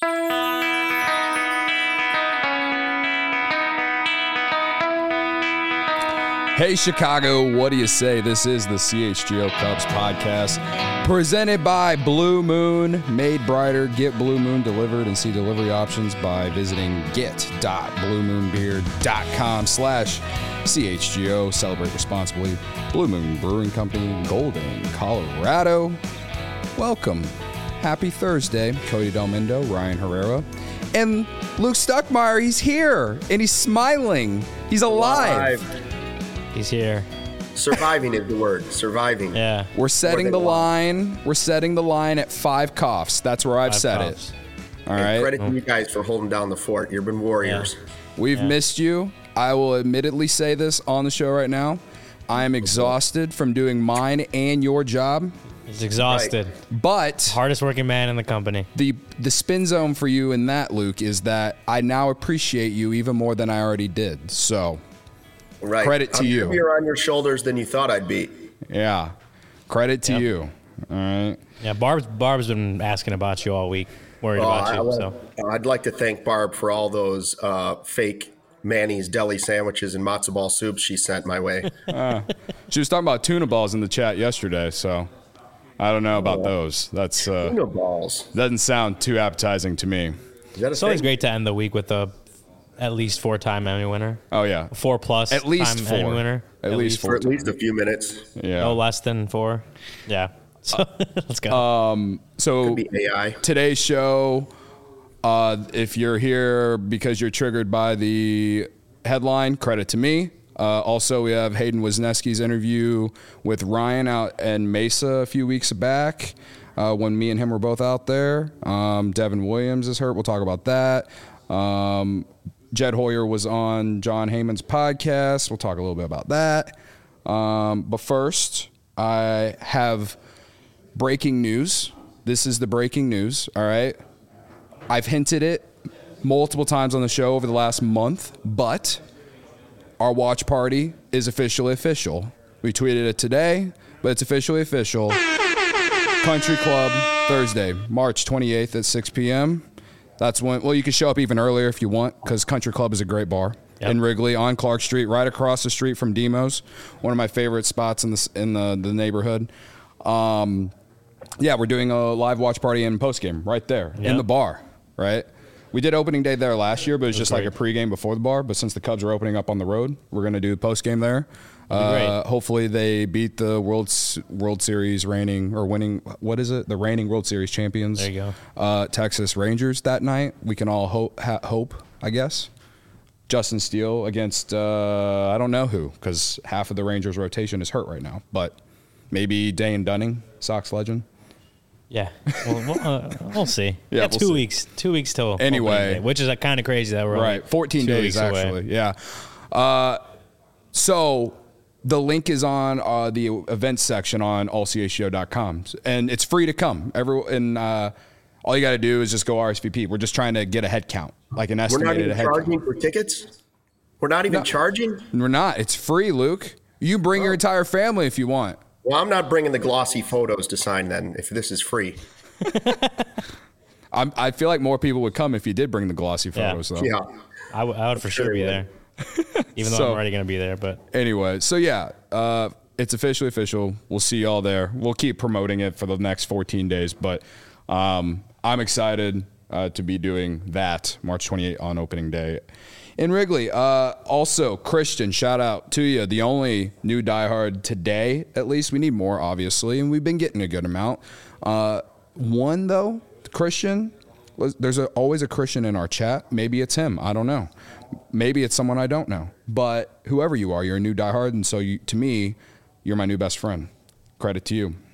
Hey, Chicago, what do you say? This is the CHGO Cubs podcast presented by Blue Moon. Made brighter. Get Blue Moon delivered and see delivery options by visiting get.bluemoonbeer.com/CHGO. Celebrate responsibly. Blue Moon Brewing Company, Golden, Colorado. Welcome. Happy Thursday. Cody Delmindo, Ryan Herrera, and Luke Stuckmeyer. He's here, and he's smiling. He's alive. He's here. Surviving is the word. Surviving. Yeah. We're setting the line. We're setting the line at 5 coughs. That's where I've set it. All right. Credit to you guys for holding down the fort. You've been warriors. Yeah. We've missed you. I will admittedly say this on the show right now. I am exhausted from doing mine and your job. He's exhausted. Right. But hardest working man in the company. The spin zone for you in that, Luke, is that I now appreciate you even more than I already did. So. Right. Credit to you. I'm heavier on your shoulders than you thought I'd be. Yeah. Credit to you. All right. Yeah, Barb's been asking about you all week, worried about you. I'd like to thank Barb for all those fake Manny's deli sandwiches and matzo ball soups she sent my way. She was talking about tuna balls in the chat yesterday, so I don't know about those. That's tuna balls. Doesn't sound too appetizing to me. It's always great to end the week with at least 4-time Emmy winner. Oh, yeah. 4+ at least time 4. Emmy winner. At least 4. For at least a few minutes. Yeah. No less than 4. Yeah. So let's go. Could be AI. Today's show, if you're here because you're triggered by the headline, credit to me. Also, we have Hayden Wisniewski's interview with Ryan out in Mesa a few weeks back when me and him were both out there. Devin Williams is hurt. We'll talk about that. Jed Hoyer was on John Heyman's podcast. We'll talk a little bit about that. But first, I have breaking news. This is the breaking news, all right? I've hinted it multiple times on the show over the last month, but our watch party is officially official. We tweeted it today, but it's officially official. Country Club, Thursday, March 28th at 6 p.m., That's when, well, you can show up even earlier if you want, because Country Club is a great bar in Wrigley on Clark Street, right across the street from Demos, one of my favorite spots in the neighborhood. We're doing a live watch party and postgame right there in the bar, right? We did opening day there last year, but it was just like a pregame before the bar. But since the Cubs are opening up on the road, we're going to do postgame there. Hopefully they beat the World Series winning, what is it? The reigning World Series champions. There you go. Texas Rangers that night. We can all hope, I guess. Justin Steele against, I don't know who, because half of the Rangers rotation is hurt right now. But maybe Dane Dunning, Sox legend. Yeah, we'll see. Yeah, we'll 2 weeks. 2 weeks till anyway, which is kind of crazy that we're right. 14 days actually. Away. Yeah. So the link is on the events section on allchgo.com, and it's free to come. All you got to do is just go RSVP. We're just trying to get a head count, like an estimated head count. We're not even charging for tickets? We're not even charging? We're not. It's free, Luke. You bring your entire family if you want. Well, I'm not bringing the glossy photos to sign then, if this is free. I feel like more people would come if you did bring the glossy photos, though. Yeah. I would for sure be there, even though I'm already going to be there. But anyway, so it's officially official. We'll see y'all there. We'll keep promoting it for the next 14 days, but I'm excited to be doing that March 28th on opening day in Wrigley. Also, Christian, shout out to you. The only new diehard today, at least. We need more, obviously, and we've been getting a good amount. One, though, Christian, there's always a Christian in our chat. Maybe it's him. I don't know. Maybe it's someone I don't know. But whoever you are, you're a new diehard, and so to me, you're my new best friend. Credit to you.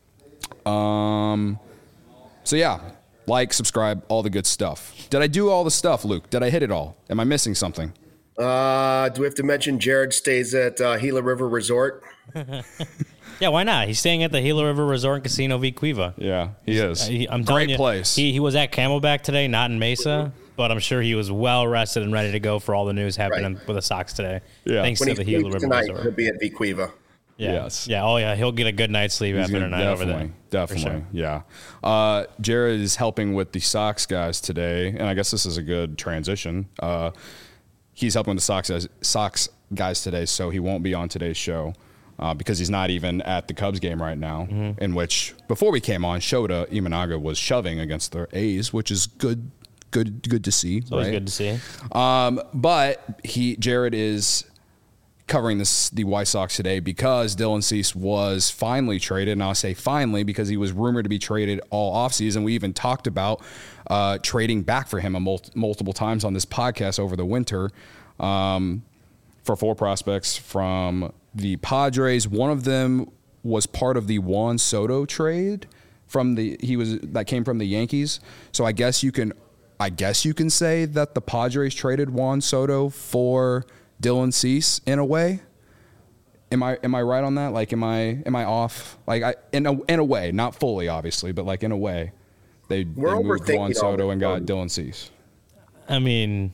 Like, subscribe, all the good stuff. Did I do all the stuff, Luke? Did I hit it all? Am I missing something? Do we have to mention Jared stays at Gila River Resort? Yeah, why not? He's staying at the Gila River Resort and Casino V Cueva. Yeah, he is. I'm telling you, place. He was at Camelback today, not in Mesa, but I'm sure he was well rested and ready to go for all the news happening with the Sox today. Yeah. Thanks to the Gila River tonight, Resort. he'll be at V Cueva. Yeah. Yes. Yeah. Oh, yeah. He'll get a good night's sleep after a night over there. Definitely. Sure. Yeah. Jared is helping with the Sox guys today, and I guess this is a good transition. He's helping with the Sox guys today, so he won't be on today's show because he's not even at the Cubs game right now, in which, before we came on, Shota Imanaga was shoving against the A's, which is good to see. It's always good to see. But Jared is covering the White Sox today because Dylan Cease was finally traded, and I'll say finally because he was rumored to be traded all offseason. We even talked about trading back for him multiple times on this podcast over the winter for 4 prospects from the Padres. One of them was part of the Juan Soto trade that came from the Yankees. So I guess you can say that the Padres traded Juan Soto for Dylan Cease in a way. Am I right on that? Like, am I off? Like, in a way, not fully, obviously, but like in a way, they moved Juan Soto and got Dylan Cease. I mean,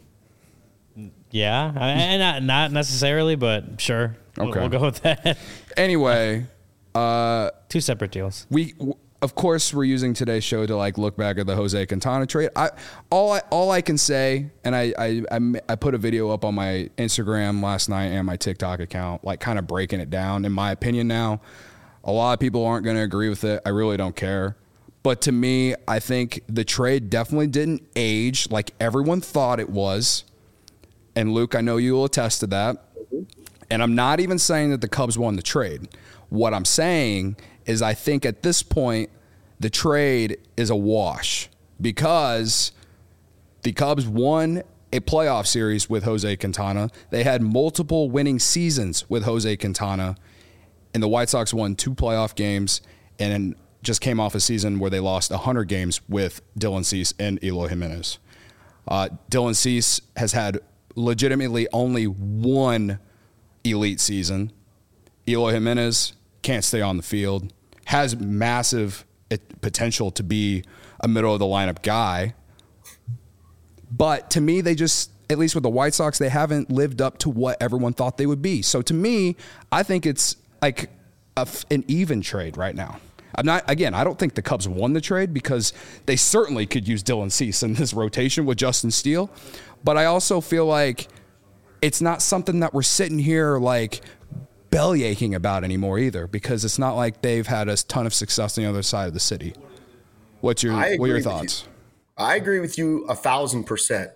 yeah, not necessarily, but sure. Okay, we'll go with that. Anyway, 2 separate deals. Of course, we're using today's show to like look back at the Jose Quintana trade. All I can say, and I put a video up on my Instagram last night and my TikTok account, like kind of breaking it down. In my opinion, now, a lot of people aren't going to agree with it. I really don't care. But to me, I think the trade definitely didn't age like everyone thought it was. And Luke, I know you will attest to that. And I'm not even saying that the Cubs won the trade. What I'm saying is I think at this point, the trade is a wash because the Cubs won a playoff series with Jose Quintana. They had multiple winning seasons with Jose Quintana, and the White Sox won 2 playoff games and just came off a season where they lost 100 games with Dylan Cease and Eloy Jimenez. Dylan Cease has had legitimately only 1 elite season. Eloy Jimenez can't stay on the field, has massive potential to be a middle of the lineup guy. But to me, they just, at least with the White Sox, they haven't lived up to what everyone thought they would be. So to me, I think it's like an even trade right now. I don't think the Cubs won the trade because they certainly could use Dylan Cease in this rotation with Justin Steele. But I also feel like it's not something that we're sitting here like bellyaching about anymore either, because it's not like they've had a ton of success on the other side of the city. What are your thoughts? I agree with you 1,000%.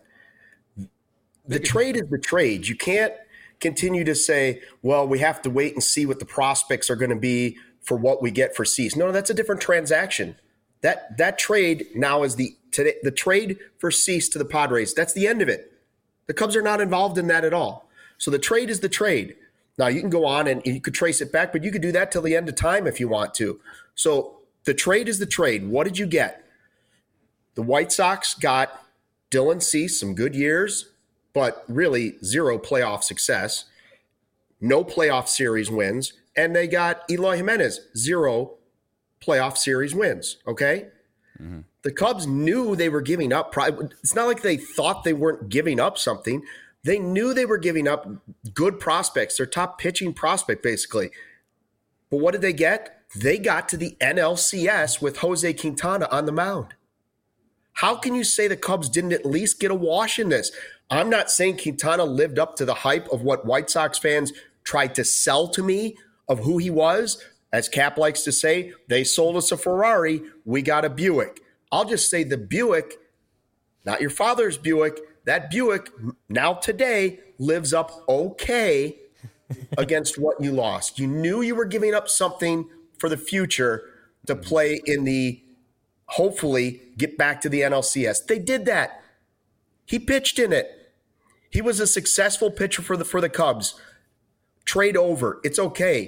The trade is the trade. You can't continue to say, well, we have to wait and see what the prospects are going to be for what we get for Cease. No, that's a different transaction. That trade now is the trade for Cease to the Padres. That's the end of it. The Cubs are not involved in that at all. So the trade is the trade. Now, you can go on and you could trace it back, but you could do that till the end of time if you want to. So the trade is the trade. What did you get? The White Sox got Dylan Cease, some good years, but really 0 playoff success, no playoff series wins, and they got Eloy Jimenez, 0 playoff series wins, okay? Mm-hmm. The Cubs knew they were giving up. It's not like they thought they weren't giving up something. They knew they were giving up good prospects, their top pitching prospect, basically. But what did they get? They got to the NLCS with Jose Quintana on the mound. How can you say the Cubs didn't at least get a wash in this? I'm not saying Quintana lived up to the hype of what White Sox fans tried to sell to me of who he was. As Cap likes to say, they sold us a Ferrari, we got a Buick. I'll just say the Buick, not your father's Buick, that Buick now today lives up okay against what you lost. You knew you were giving up something for the future to play in the, hopefully, get back to the NLCS. They did that. He pitched in it. He was a successful pitcher for the Cubs. Trade over. It's okay.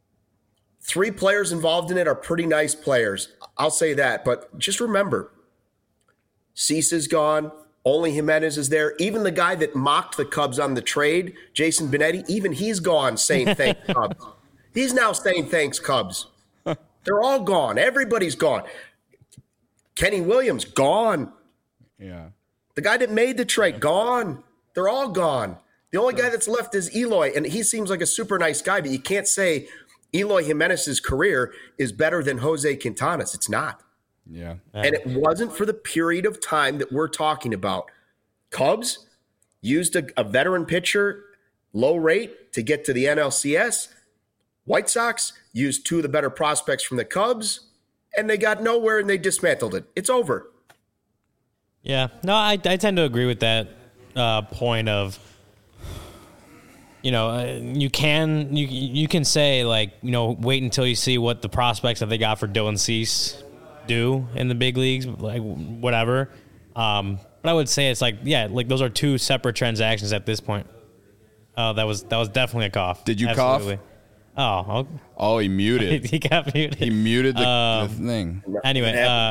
3 players involved in it are pretty nice players. I'll say that. But just remember, Cease is gone. Only Jimenez is there. Even the guy that mocked the Cubs on the trade, Jason Benetti, even he's gone saying thanks, Cubs. He's now saying thanks, Cubs. They're all gone. Everybody's gone. Kenny Williams, gone. Yeah. The guy that made the trade, gone. They're all gone. The only guy that's left is Eloy, and he seems like a super nice guy, but you can't say Eloy Jimenez's career is better than Jose Quintana's. It's not. Yeah. And it wasn't for the period of time that we're talking about. Cubs used a veteran pitcher, low rate, to get to the NLCS. White Sox used two of the better prospects from the Cubs, and they got nowhere and they dismantled it. It's over. Yeah. No, I tend to agree with that point of, you can say, like, wait until you see what the prospects that they got for Dylan Cease do in the big leagues, like whatever. But I would say it's like, those are two separate transactions at this point. Oh, that was definitely a cough. Did you Absolutely. cough? Oh, he muted. He got muted. He muted the thing. Anyway,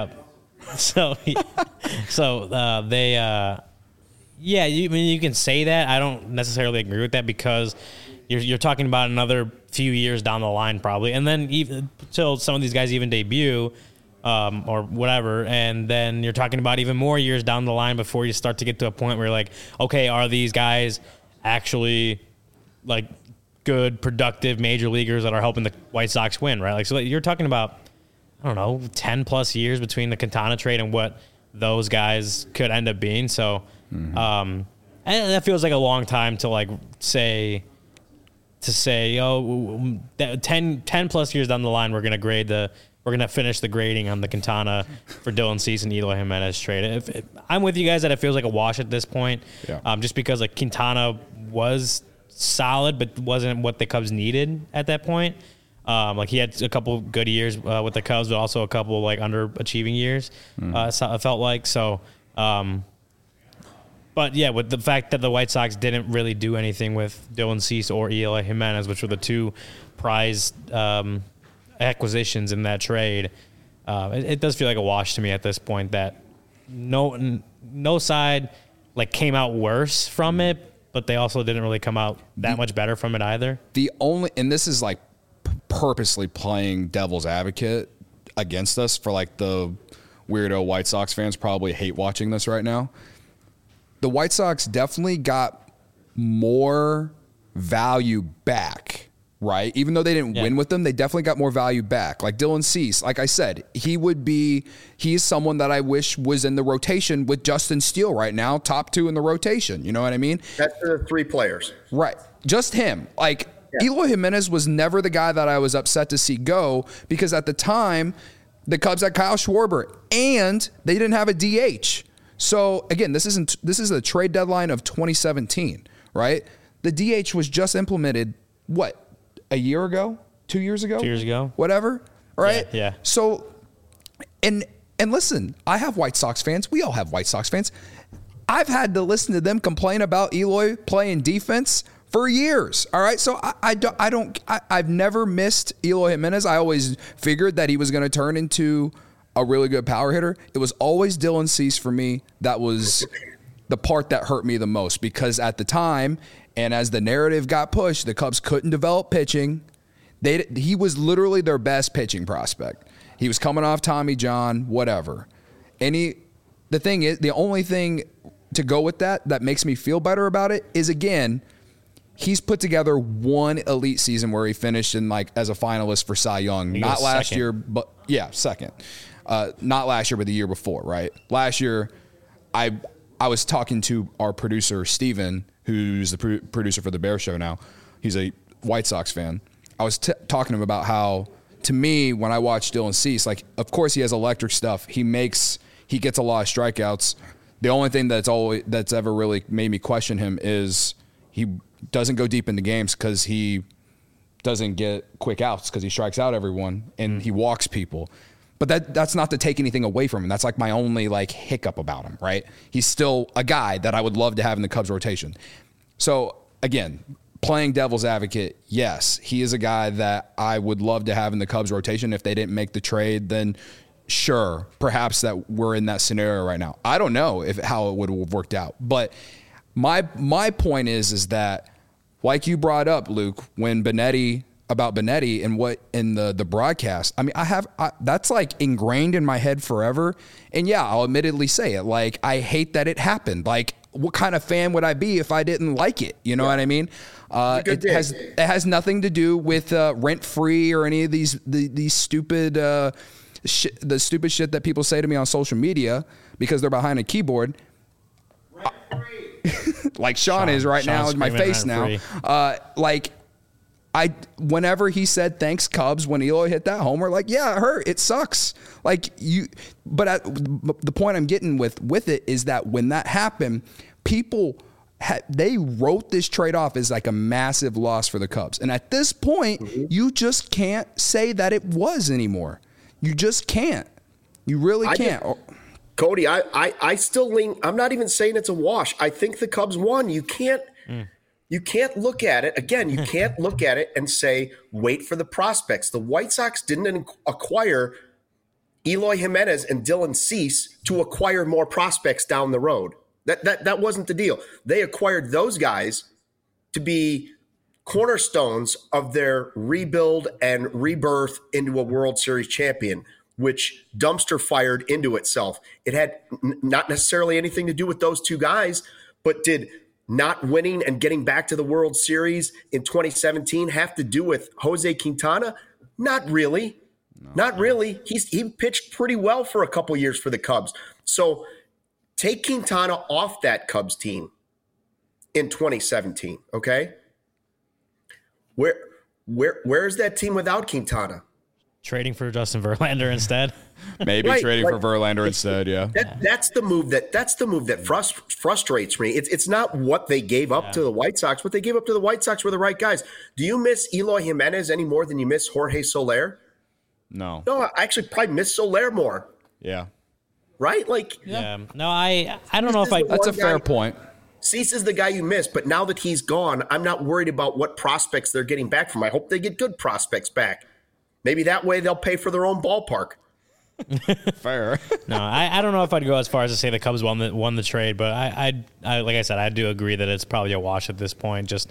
you can say that. I don't necessarily agree with that because you're talking about another few years down the line probably, and then even till some of these guys even debut or whatever, and then you're talking about even more years down the line before you start to get to a point where you're like, okay, are these guys actually like good, productive major leaguers that are helping the White Sox win, right? Like, so you're talking about, I don't know, 10 plus years between the Quintana trade and what those guys could end up being. So, and that feels like a long time to like say, 10 plus years down the line, we're going to finish the grading on the Quintana for Dylan Cease and Eloy Jimenez trade. I'm with you guys that it feels like a wash at this point. Yeah. Just because like Quintana was solid, but wasn't what the Cubs needed at that point. Like he had a couple good years with the Cubs, but also a couple like underachieving years. I felt like so. But yeah, with the fact that the White Sox didn't really do anything with Dylan Cease or Eloy Jimenez, which were the two prized acquisitions in that trade, it does feel like a wash to me at this point that no side like came out worse from it, but they also didn't really come out that much better from it either. And this is like purposely playing devil's advocate against us for like the weirdo White Sox fans probably hate watching this right now. The White Sox definitely got more value back, right? Even though they didn't win with them, they definitely got more value back. Like Dylan Cease, like I said, he's someone that I wish was in the rotation with Justin Steele right now, top two in the rotation. You know what I mean? That's the three players. Right. Just him. Like Eloy Jimenez was never the guy that I was upset to see go because at the time, the Cubs had Kyle Schwarber and they didn't have a DH. So again, this is a trade deadline of 2017, right? The DH was just implemented, what, a year ago? 2 years ago? 2 years ago. Whatever, right? Yeah. So, and listen, I have White Sox fans. We all have White Sox fans. I've had to listen to them complain about Eloy playing defense for years. All right. So I've never missed Eloy Jimenez. I always figured that he was going to turn into a really good power hitter. It was always Dylan Cease for me. That was the part that hurt me the most because at the time, and as the narrative got pushed, the Cubs couldn't develop pitching. He was literally their best pitching prospect. He was coming off Tommy John, whatever. And the only thing to go with that makes me feel better about it is, again, he's put together one elite season where he finished in like as a finalist for Cy Young. Not last year, but second. Not last year, but the year before, right? Last year, I was talking to our producer, Steven, who's the producer for the Bear Show now. He's a White Sox fan. I was talking to him about how, to me, when I watch Dylan Cease, like, of course he has electric stuff. He gets a lot of strikeouts. The only thing that's ever really made me question him is he doesn't go deep into games because he doesn't get quick outs because he strikes out everyone and he walks people. But that's not to take anything away from him. That's like my only like hiccup about him, right? He's still a guy that I would love to have in the Cubs rotation. So again, playing devil's advocate, yes, he is a guy that I would love to have in the Cubs rotation. If they didn't make the trade, then sure, perhaps that we're in that scenario right now. I don't know how it would have worked out. But my point is that, like you brought up, Luke, when Benetti and what in the broadcast, I mean, that's like ingrained in my head forever. And yeah, I'll admittedly say it. Like, I hate that it happened. Like, what kind of fan would I be if I didn't like it? You know what I mean? It has nothing to do with rent free or any of these stupid the stupid shit that people say to me on social media because they're behind a keyboard. Like Sean is right now in my face now. Whenever he said thanks Cubs when Eloy hit that homer, like, yeah, it hurt. It sucks. But the point I'm getting with it is that when that happened, people they wrote this trade off as like a massive loss for the Cubs. And at this point, you just can't say that it was anymore. You just can't. You really can't. Cody, I still lean. I'm not even saying it's a wash. I think the Cubs won. You can't look at it again. You can't look at it and say, wait for the prospects. The White Sox didn't acquire Eloy Jimenez and Dylan Cease to acquire more prospects down the road. That wasn't the deal. They acquired those guys to be cornerstones of their rebuild and rebirth into a World Series champion, which dumpster fired into itself. It had not necessarily anything to do with those two guys, but did not winning and getting back to the World Series in 2017 have to do with Jose Quintana? Not really. Not really. He pitched pretty well for a couple years for the Cubs. So take Quintana off that Cubs team in 2017, okay? Where's that team without Quintana? Trading for Justin Verlander instead. Maybe trading for Verlander instead, yeah. That's the move that frustrates me. It's not what they gave up to the White Sox. What they gave up to the White Sox were the right guys. Do you miss Eloy Jimenez any more than you miss Jorge Soler? No. No, I actually probably miss Soler more. Yeah. Right? Like, yeah. No, I don't know if I. That's a fair point. Cease is the guy you miss, but now that he's gone, I'm not worried about what prospects they're getting back from. I hope they get good prospects back. Maybe that way they'll pay for their own ballpark. Fair. No, I don't know if I'd go as far as to say the Cubs won the trade, but I like I said, I do agree that it's probably a wash at this point. Just,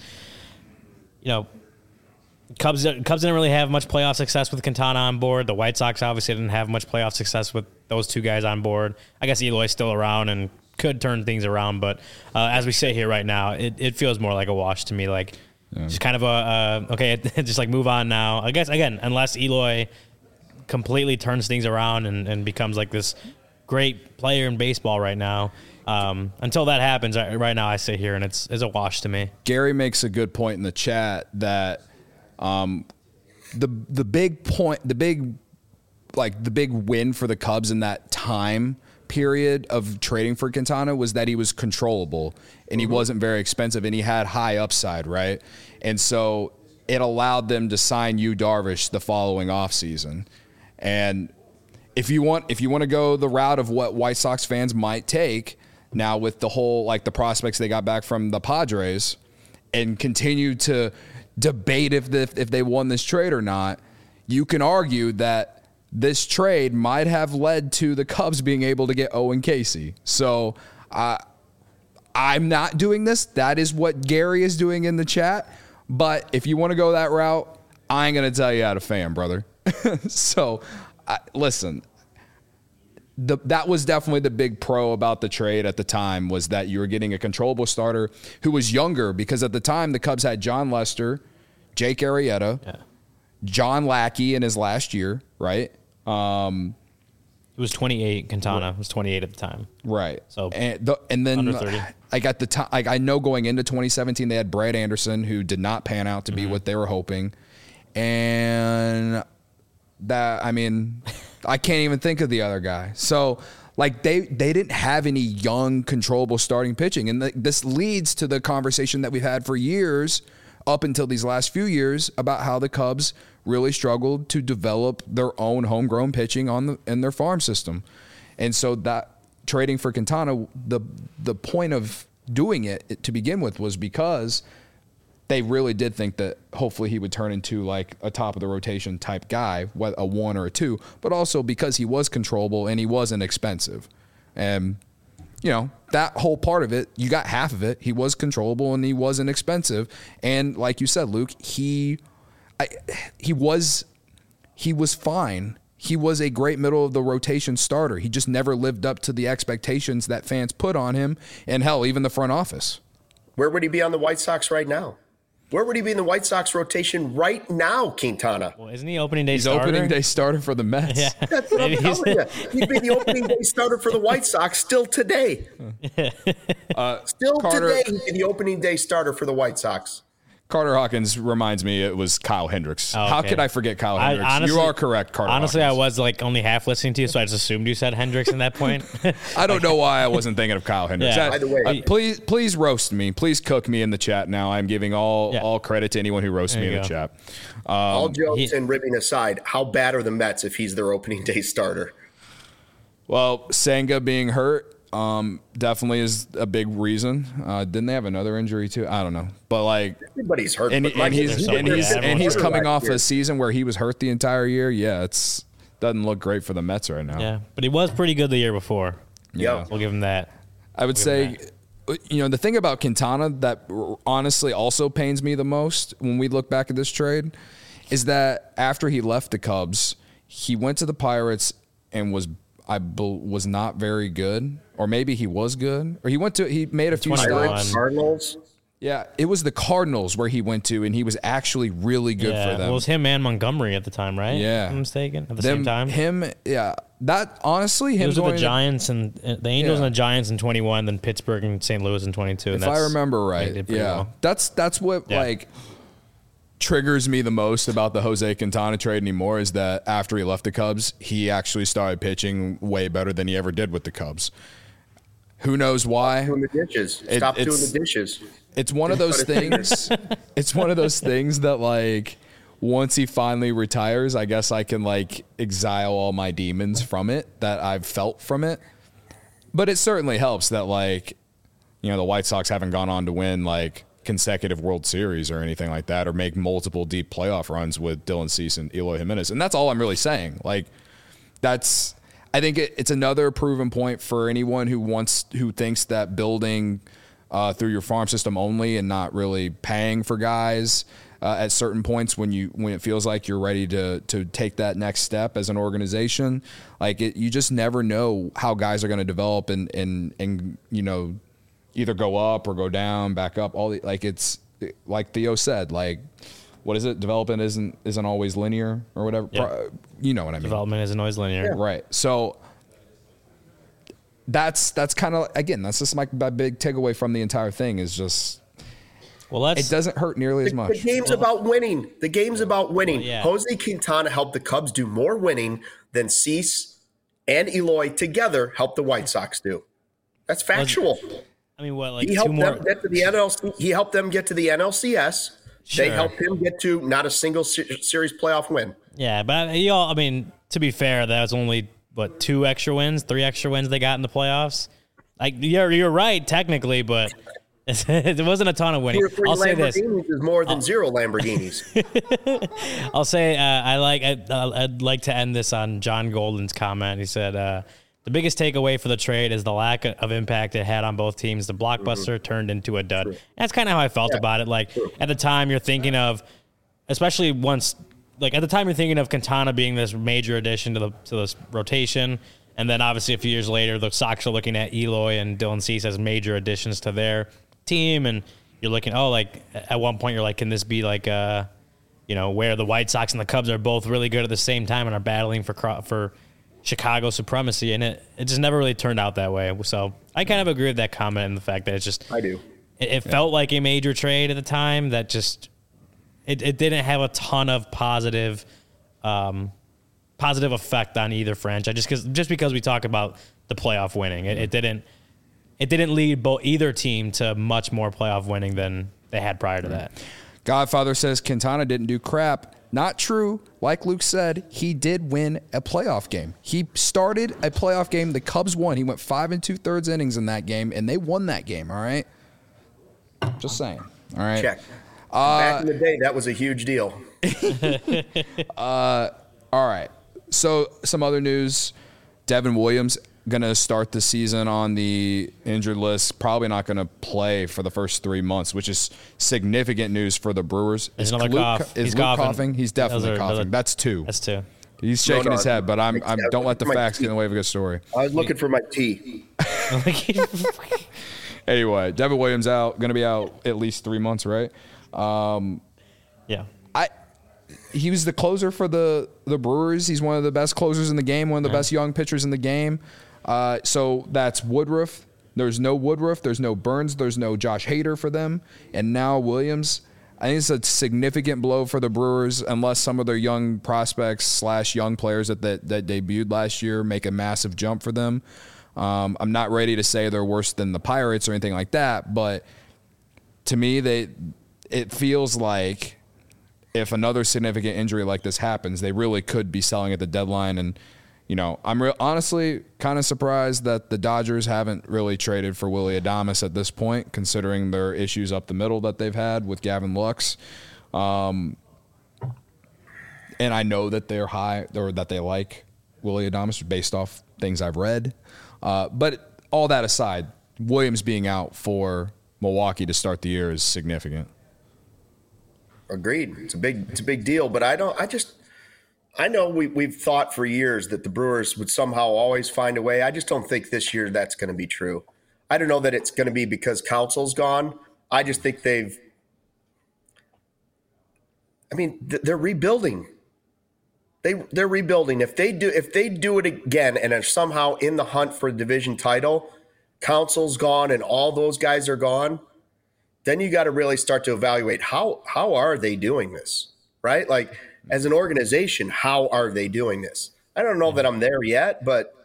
Cubs didn't really have much playoff success with Quintana on board. The White Sox obviously didn't have much playoff success with those two guys on board. I guess Eloy's still around and could turn things around, but as we sit here right now, it feels more like a wash to me. Like, just kind of okay, just like move on now. I guess, again, unless Eloy completely turns things around and becomes like this great player in baseball right now. Until that happens, right now I sit here and it's a wash to me. Gary makes a good point in the chat that the big win for the Cubs in that time period of trading for Quintana was that he was controllable and he wasn't very expensive and he had high upside, right? And so it allowed them to sign Yu Darvish the following offseason. And if you want to go the route of what White Sox fans might take now with the whole, like, the prospects they got back from the Padres and continue to debate if they won this trade or not, you can argue that this trade might have led to the Cubs being able to get Owen Casey. So I'm not doing this. That is what Gary is doing in the chat. But if you want to go that route, I ain't going to tell you how to fan, brother. So, listen, that was definitely the big pro about the trade at the time, was that you were getting a controllable starter who was younger, because at the time the Cubs had John Lester, Jake Arrieta, John Lackey in his last year, right? It was 28. Quintana was 28 at the time, right? So and then under 30. Like at the time, like I know going into 2017 they had Brad Anderson, who did not pan out to be what they were hoping, and that, I mean, I can't even think of the other guy. So like they didn't have any young controllable starting pitching, and this leads to the conversation that we've had for years up until these last few years about how the Cubs really struggled to develop their own homegrown pitching in their farm system. And so that trading for Quintana, the point of doing it to begin with was because they really did think that hopefully he would turn into like a top of the rotation type guy, a 1 or a 2, but also because he was controllable and he wasn't expensive. And that whole part of it, you got half of it. He was controllable and he wasn't expensive. And like you said, Luke, he was fine. he was a great middle of the rotation starter. He just never lived up to the expectations that fans put on him, and hell, even the front office. Where would he be on the White Sox right now? Where would he be in the White Sox rotation right now, Quintana? Well, isn't he opening day He's starter? opening day starter for the Mets. Yeah. That's what I'm telling you. He'd be the opening day starter for the White Sox still today. Today, he'd be the opening day starter for the White Sox. Carter Hawkins reminds me it was Kyle Hendricks. Oh, okay. How could I forget Kyle Hendricks? Honestly, you are correct, Carter Honestly, Hawkins. I was like only half listening to you, so I just assumed you said Hendricks in that point. I don't know why I wasn't thinking of Kyle Hendricks. Yeah. By the way, please roast me. Please cook me in the chat now. I'm giving all credit to anyone who roasts me in the chat. all jokes and ribbing aside, how bad are the Mets if he's their opening day starter? Well, Senga being hurt definitely is a big reason. Didn't they have another injury too? I don't know, but like Everybody's hurt. and, but and he's everyone's coming off here. a season where he was hurt the entire year. Yeah, it's doesn't look great for the Mets right now. Yeah, but he was pretty good the year before. Yeah. We'll give him that. I would say, the thing about Quintana that honestly also pains me the most when we look back at this trade is that after he left the Cubs, he went to the Pirates and was not very good, or maybe he was good, or he made a few 21. stops. Cardinals. Yeah, it was the Cardinals where he went to, and he was actually really good for them. Well, it was him and Montgomery at the time, right? Yeah. If I'm mistaken. At the same time. That honestly, He him was with going the Giants and the Angels and the Giants in 21, then Pittsburgh and St. Louis in 22. if I remember right, that's what like triggers me the most about the Jose Quintana trade anymore is that after he left the Cubs, he actually started pitching way better than he ever did with the Cubs. Who knows why? Doing the dishes. Stop doing the dishes. It's one of those things. It's one of those things that like once he finally retires, I guess I can like exile all my demons from it that I've felt from it. But it certainly helps that like, the White Sox haven't gone on to win like consecutive World Series or anything like that, or make multiple deep playoff runs with Dylan Cease and Eloy Jimenez. And that's all I'm really saying. Like I think it's another proven point for anyone who thinks that building through your farm system only and not really paying for guys at certain points when it feels like you're ready to take that next step as an organization, like you just never know how guys are going to develop and either go up or go down, back up. It's like Theo said, like what is it? Development isn't always linear or whatever. Yeah. You know what I mean? Development isn't always linear. Right. So that's kind of, again, that's just my big takeaway from the entire thing is just, it doesn't hurt nearly as much. The game's about winning. The game's about winning. Well, yeah. Jose Quintana helped the Cubs do more winning than Cease and Eloy together helped the White Sox do. That's factual. I mean, what, like He two helped more? them get to the NLC. He helped them get to the NLCS. Sure. They helped him get to not a single series playoff win. Yeah, but to be fair, that was only, 3 extra wins they got in the playoffs? Like, you're right, technically, but it wasn't a ton of winning. 2 or 3 I'll say this. Lamborghinis is more than 0 Lamborghinis. I'll say I'd like to end this on John Golden's comment. He said, the biggest takeaway for the trade is the lack of impact it had on both teams. The blockbuster turned into a dud. That's kind of how I felt about it. Like at the time you're thinking of, especially once, like at the time you're thinking of Quintana being this major addition to this rotation. And then obviously a few years later, the Sox are looking at Eloy and Dylan Cease as major additions to their team. And you're looking, at one point you're like, can this be like, where the White Sox and the Cubs are both really good at the same time and are battling for Chicago supremacy, and it just never really turned out that way. So I kind of agree with that comment and the fact that it's just I do. It felt like a major trade at the time that just it didn't have a ton of positive effect on either franchise. Just because we talk about the playoff winning, it didn't lead either team to much more playoff winning than they had prior to that. Godfather says Quintana didn't do crap. Not true. Like Luke said, he did win a playoff game. He started a playoff game. The Cubs won. He went 5 2/3 innings in that game, and they won that game. All right. Just saying. All right. Check. Back in the day, that was a huge deal. All right. So some other news. Devin Williams going to start the season on the injured list. Probably not going to play for the first 3 months, which is significant news for the Brewers. There's another cough. Is He's Luke coughing. coughing? He's definitely coughing. That's 2. That's 2. He's shaking his head, but I'm don't let the facts get in the way of a good story. I was looking for my tea. Anyway, Devin Williams out, going to be out at least 3 months, right? Yeah. He was the closer for the Brewers. He's one of the best closers in the game, one of the best young pitchers in the game. So that's Woodruff. There's no Woodruff. There's no Burns. There's no Josh Hader for them. And now Williams. I think it's a significant blow for the Brewers unless some of their young prospects / young players that debuted last year make a massive jump for them. I'm not ready to say they're worse than the Pirates or anything like that, but to me, it feels like if another significant injury like this happens, they really could be selling at the deadline. And, I'm honestly kind of surprised that the Dodgers haven't really traded for Willy Adames at this point, considering their issues up the middle that they've had with Gavin Lux. And I know that they're high or that they like Willy Adames based off things I've read. But all that aside, Williams being out for Milwaukee to start the year is significant. Agreed. It's a big deal, but I know we've thought for years that the Brewers would somehow always find a way. I just don't think this year that's going to be true. I don't know that it's going to be because Counsell's gone. I just think they're rebuilding. They're rebuilding. If they do it again and are somehow in the hunt for a division title, Counsell's gone and all those guys are gone, then you got to really start to evaluate how are they doing this, right? Like as an organization, how are they doing this? I don't know that I'm there yet, but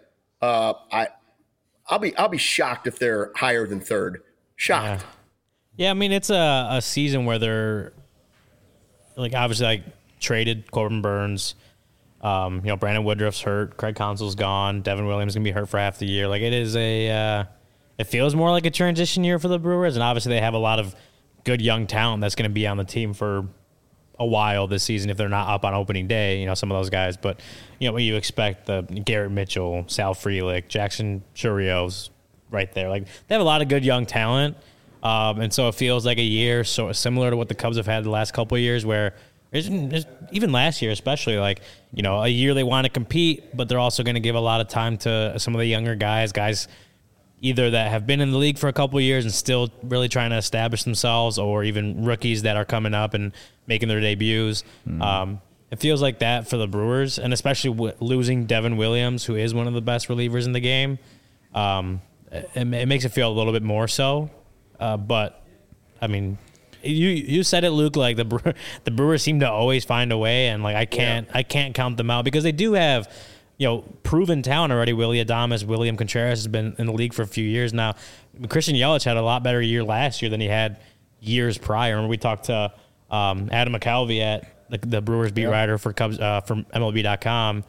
I'll be shocked if they're higher than third. Shocked. Yeah, I mean it's a season where they're obviously traded Corbin Burns. Brandon Woodruff's hurt. Craig Counsell's gone. Devin Williams is going to be hurt for half the year. It is it feels more like a transition year for the Brewers, and obviously they have a lot of good young talent that's going to be on the team for a while this season if they're not up on opening day, some of those guys. But, what you expect, the Garrett Mitchell, Sal Frelick, Jackson Chourio right there. They have a lot of good young talent, and so it feels like a year so similar to what the Cubs have had the last couple of years where even last year especially, a year they want to compete, but they're also going to give a lot of time to some of the younger guys either that have been in the league for a couple of years and still really trying to establish themselves, or even rookies that are coming up and making their debuts. It feels like that for the Brewers, and especially losing Devin Williams, who is one of the best relievers in the game. It makes it feel a little bit more so. But, I mean, you said it, Luke, the Brewers seem to always find a way, and I can't count them out because they do have proven talent already. Willy Adames, William Contreras has been in the league for a few years now. Christian Yelich had a lot better year last year than he had years prior. Remember we talked to Adam McCalvey at the Brewers beat writer for Cubs from MLB.com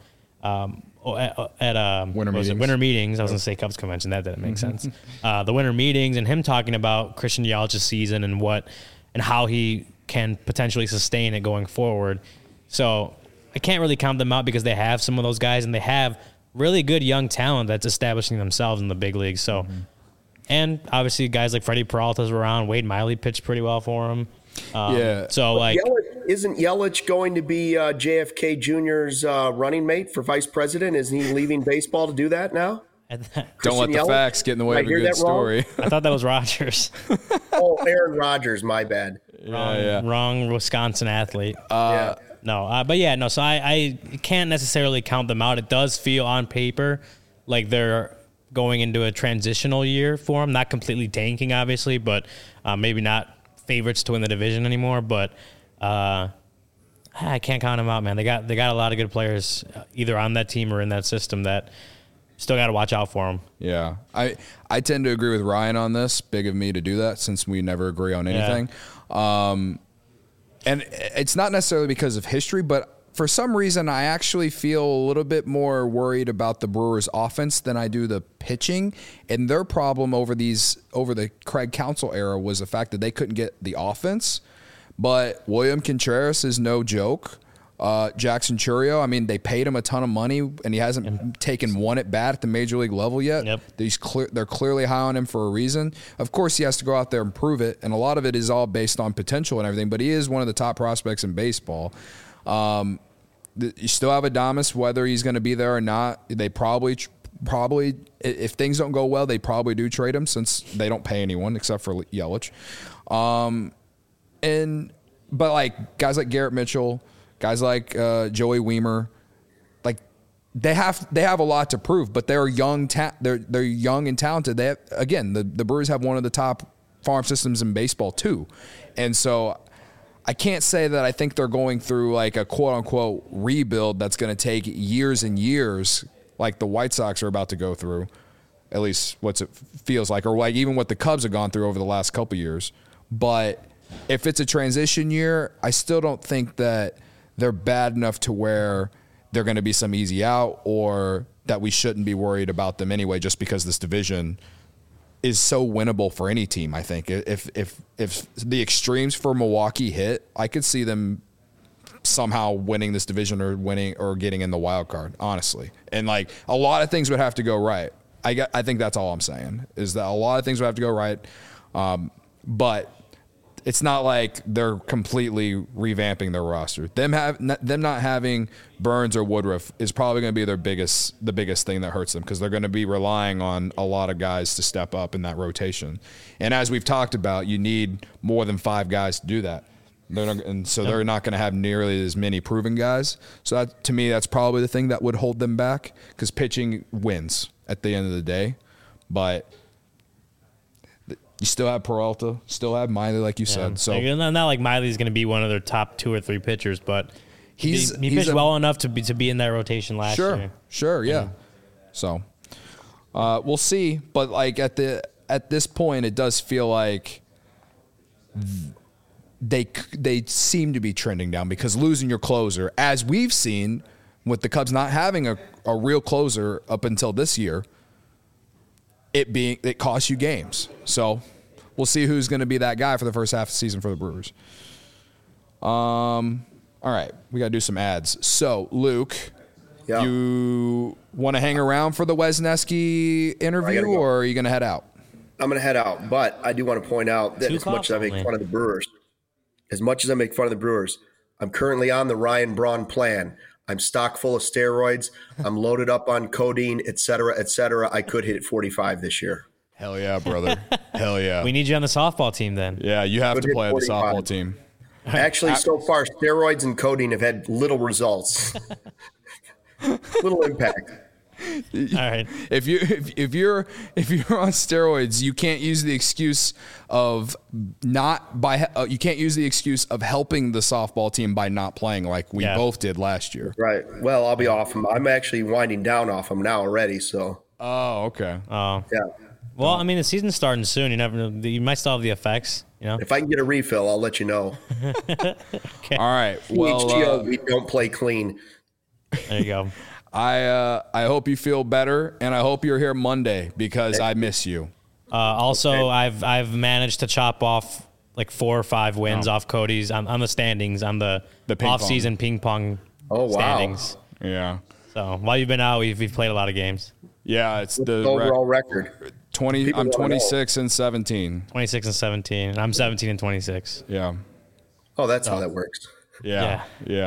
at winter meetings. I was going to say Cubs convention. That didn't make sense. The winter meetings and him talking about Christian Yelich's season and how he can potentially sustain it going forward. So I can't really count them out because they have some of those guys and they have really good young talent that's establishing themselves in the big leagues. So, and obviously guys like Freddie Peralta's around. Wade Miley pitched pretty well for him. So isn't Yelich going to be JFK Jr.'s running mate for vice president? Isn't he leaving baseball to do that now? Don't let the facts get in the way of a good story. I thought that was Rodgers. Aaron Rodgers. My bad. Wrong Wisconsin athlete. So I can't necessarily count them out. It does feel on paper like they're going into a transitional year for them. Not completely tanking, obviously, but maybe not favorites to win the division anymore. But I can't count them out, man. They got a lot of good players either on that team or in that system that still got to watch out for them. Yeah, I tend to agree with Ryan on this. Big of me to do that since we never agree on anything. And it's not necessarily because of history, but for some reason, I actually feel a little bit more worried about the Brewers' offense than I do the pitching. And their problem over the Craig Counsell era was the fact that they couldn't get the offense. But William Contreras is no joke. Jackson Chourio, I mean, they paid him a ton of money, and he hasn't taken one at bat at the major league level yet. Yep. They're clearly high on him for a reason. Of course, he has to go out there and prove it, and a lot of it is all based on potential and everything, but he is one of the top prospects in baseball. You still have Adames, whether he's going to be there or not. They probably, if things don't go well, they probably do trade him since they don't pay anyone except for Yelich. But like guys like Garrett Mitchell, guys like Joey Wiemer, like they have a lot to prove. But they're young, they're young and talented. They have, again, the Brewers have one of the top farm systems in baseball too, and so I can't say that I think they're going through like a quote unquote rebuild that's going to take years and years, like the White Sox are about to go through. At least what it feels like, or like even what the Cubs have gone through over the last couple of years, but if it's a transition year, I still don't think that they're bad enough to where they're going to be some easy out or that we shouldn't be worried about them anyway, just because this division is so winnable for any team. I think if the extremes for Milwaukee hit, I could see them somehow winning this division or getting in the wild card, honestly. And like a lot of things would have to go right. I think that's all I'm saying is that a lot of things would have to go right. But it's not like they're completely revamping their roster. Them not having Burns or Woodruff is probably going to be the biggest thing that hurts them, because they're going to be relying on a lot of guys to step up in that rotation. And as we've talked about, you need more than 5 guys to do that. They're not going to have nearly as many proven guys. So that, to me, that's probably the thing that would hold them back, because pitching wins at the end of the day. But you still have Peralta, still have Miley, like you said. So not like Miley's going to be one of their top 2 or 3 pitchers, but he pitched well enough to be in that rotation last year. Sure, yeah. So we'll see, but like at this point, it does feel like they seem to be trending down, because losing your closer, as we've seen with the Cubs not having a real closer up until this year, it costs you games. So we'll see who's going to be that guy for the first half of the season for the Brewers. All right, we got to do some ads. So Luke, you want to hang around for the Wesneski interview, or are you going to head out? I'm going to head out, but I do want to point out that as much as I make fun of the Brewers, I'm currently on the Ryan Braun plan. I'm stock full of steroids. I'm loaded up on codeine, et cetera, et cetera. I could hit 45 this year. Hell yeah, brother. Hell yeah. We need you on the softball team then. Yeah, you have to play on the softball team. Actually, so far, steroids and codeine have had little results. Little impact. All right. If you're on steroids, you can't use the excuse of you can't use the excuse of helping the softball team by not playing like we both did last year. Right. Well, I'll be off them. I'm actually winding down off them now already. So. Oh, okay. Oh. Yeah. Well, I mean, the season's starting soon. You never know. You might still have the effects. You know. If I can get a refill, I'll let you know. Okay. All right. Well, we don't play clean. There you go. I hope you feel better, and I hope you're here Monday, because I miss you. Also, okay. I've managed to chop off like 4 or 5 wins off Cody's on the standings, on the off-season ping pong standings. Yeah. So while you've been out, we've played a lot of games. Yeah, it's the overall record. 20. I'm 26 and 17. 26 and 17. I'm 17 and 26. Yeah. Oh, that's how that works. Yeah.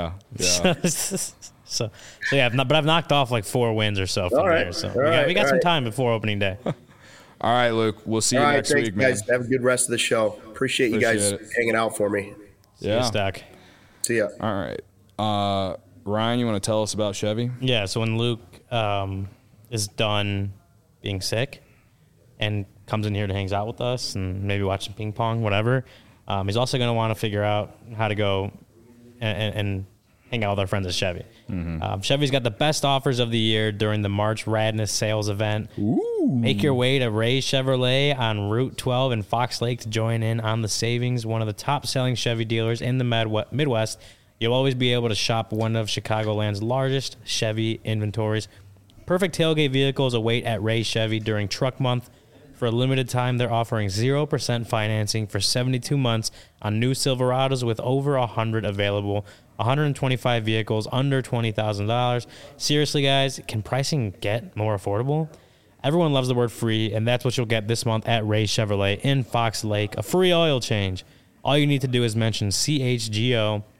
So yeah, but I've knocked off like 4 wins or so from there. So we got some time before opening day. All right, Luke. We'll see you next week, man. Guys. Have a good rest of the show. Appreciate you guys hanging out for me. Yeah. Stack. See ya. All right. Ryan, you want to tell us about Chevy? Yeah. So when Luke is done being sick and comes in here to hangs out with us and maybe watch some ping pong, whatever, he's also going to want to figure out how to go and hang out with our friends at Chevy. Mm-hmm. Chevy's got the best offers of the year during the March Radness sales event. Ooh. Make your way to Ray Chevrolet on Route 12 in Fox Lake to join in on the savings. One of the top-selling Chevy dealers in the Midwest. You'll always be able to shop one of Chicagoland's largest Chevy inventories. Perfect tailgate vehicles await at Ray Chevy during Truck Month. For a limited time, they're offering 0% financing for 72 months on new Silverados with over 100 available. 125 vehicles under $20,000. Seriously, guys, can pricing get more affordable? Everyone loves the word free, and that's what you'll get this month at Ray Chevrolet in Fox Lake, a free oil change. All you need to do is mention CHGO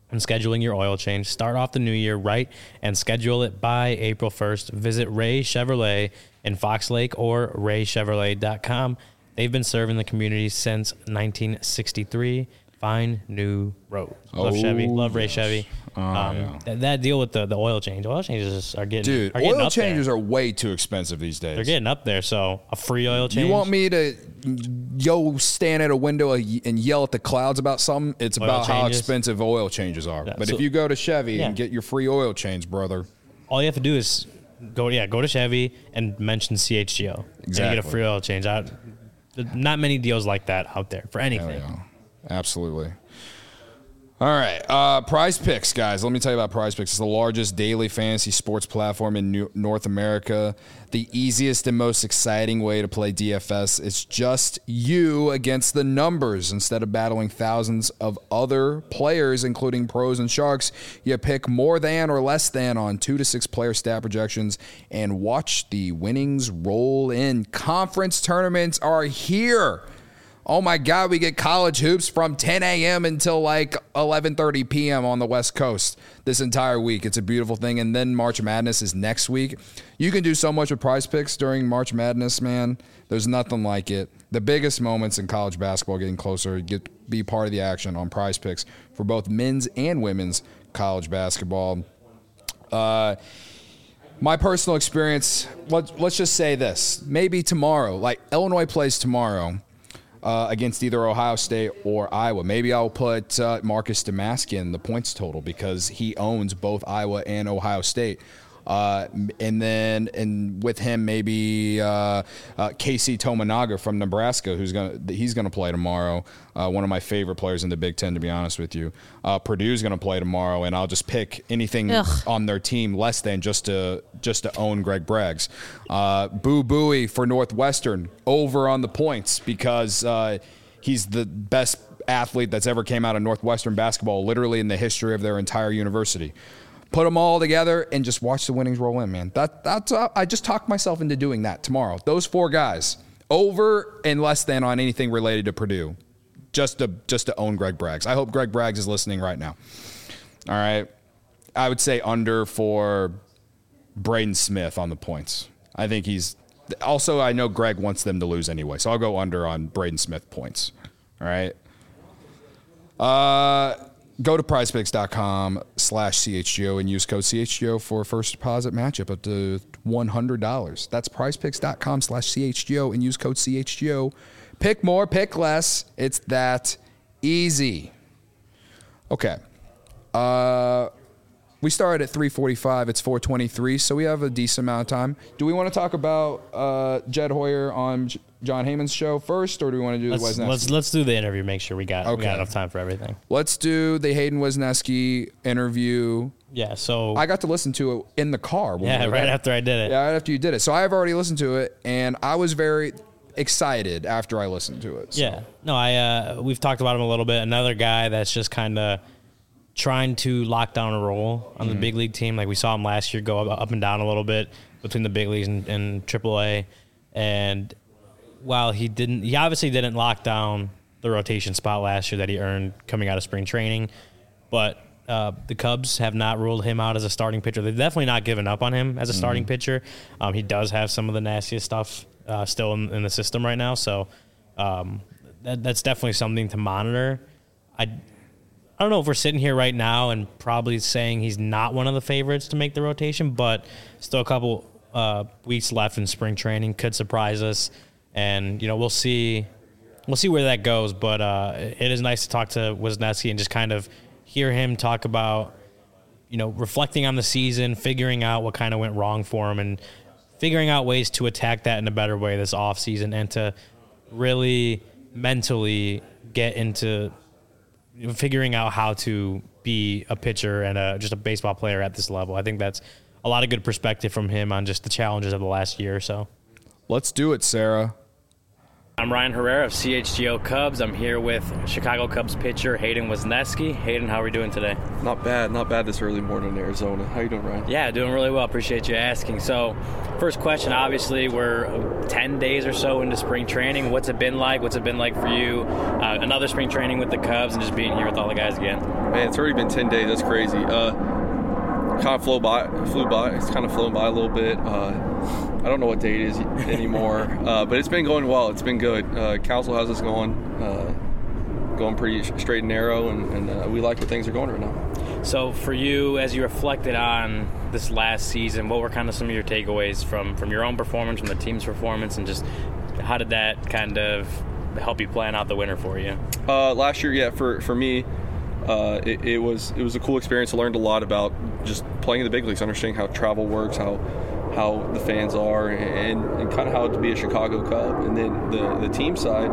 and scheduling your oil change. Start off the new year right and schedule it by April 1st. Visit Ray Chevrolet in Fox Lake or raychevrolet.com. They've been serving the community since 1963. Find new roads. Love Chevy. Love Ray Chevy. That deal with the oil change. Oil changes are getting oil changes are way too expensive these days. They're getting up there. So a free oil change. You want me to stand at a window and yell at the clouds about something? It's oil about changes. How expensive oil changes are. Yeah, but if you go to Chevy and get your free oil change, brother, all you have to do is go to Chevy and mention CHGO. Exactly. And you get a free oil change. Not many deals like that out there for anything. Yeah. Absolutely. All right. Prize Picks, guys. Let me tell you about Prize Picks. It's the largest daily fantasy sports platform in North America. The easiest and most exciting way to play DFS. It's just you against the numbers. Instead of battling thousands of other players, including pros and sharks, you pick more than or less than on 2 to 6 player stat projections and watch the winnings roll in. Conference tournaments are here. Oh, my God, we get college hoops from 10 a.m. until like 11:30 p.m. on the West Coast this entire week. It's a beautiful thing. And then March Madness is next week. You can do so much with Prize Picks during March Madness, man. There's nothing like it. The biggest moments in college basketball getting closer. Get to be part of the action on Prize Picks for both men's and women's college basketball. My personal experience, let's just say this. Maybe tomorrow, like Illinois plays tomorrow. Against either Ohio State or Iowa. Maybe I'll put Marcus Domask in the points total because he owns both Iowa and Ohio State. And with him, maybe Casey Tominaga from Nebraska, he's gonna play tomorrow. One of my favorite players in the Big Ten, to be honest with you. Purdue's gonna play tomorrow, and I'll just pick anything on their team less than just to own Greg Braggs. Boo Buie for Northwestern over on the points because he's the best athlete that's ever came out of Northwestern basketball, literally in the history of their entire university. Put them all together and just watch the winnings roll in, man. That's I just talked myself into doing that tomorrow. Those 4 guys, over and less than on anything related to Purdue, just to own Greg Braggs. I hope Greg Braggs is listening right now. All right, I would say under for Braden Smith on the points. I think he's also. I know Greg wants them to lose anyway, so I'll go under on Braden Smith points. All right. Go to prizepicks.com/CHGO and use code CHGO for a first deposit matchup up to $100. That's prizepicks.com/CHGO and use code CHGO. Pick more, pick less. It's that easy. Okay. We started at 3:45. It's 4:23, so we have a decent amount of time. Do we want to talk about Jed Hoyer on John Heyman's show first, or do we want to do the Wisniewski? Let's do the interview. Make sure we got enough time for everything. Let's do the Hayden Wisniewski interview. Yeah, so I got to listen to it in the car. Right after I did it. Yeah, right after you did it. So I have already listened to it, and I was very excited after I listened to it. So. Yeah, no, we've talked about him a little bit. Another guy that's just kind of trying to lock down a role on the big league team. Like we saw him last year go up and down a little bit between the big leagues and AAA. And while he obviously didn't lock down the rotation spot last year that he earned coming out of spring training. But the Cubs have not ruled him out as a starting pitcher. They've definitely not given up on him as a starting pitcher. He does have some of the nastiest stuff still in the system right now. So that's definitely something to monitor. I don't know if we're sitting here right now and probably saying he's not one of the favorites to make the rotation, but still a couple weeks left in spring training could surprise us, and we'll see where that goes. But it is nice to talk to Wisniewski and just kind of hear him talk about reflecting on the season, figuring out what kind of went wrong for him, and figuring out ways to attack that in a better way this offseason and to really mentally get into figuring out how to be a pitcher and just a baseball player at this level. I think that's a lot of good perspective from him on just the challenges of the last year or so. Let's do it, Sarah. I'm Ryan Herrera of CHGO Cubs. I'm here with Chicago Cubs pitcher Hayden Wesneski. Hayden, how are we doing today? Not bad this early morning in Arizona. How you doing, Ryan? Yeah, doing really well. Appreciate you asking. So, first question, obviously, we're 10 days or so into spring training. What's it been like? What's it been like for you? Another spring training with the Cubs and just being here with all the guys again. Man, it's already been 10 days. That's crazy. Kind of flew by. It's kind of flown by a little bit. I don't know what day it is anymore, but it's been going well. It's been good. Council has us going pretty straight and narrow, and we like where things are going right now. So for you, as you reflected on this last season, what were kind of some of your takeaways from your own performance, from the team's performance, and just how did that kind of help you plan out the winter for you? Last year, yeah, for me, it was a cool experience. I learned a lot about just playing in the big leagues, understanding how travel works, how the fans are, and kind of how to be a Chicago Cub. And then the team side,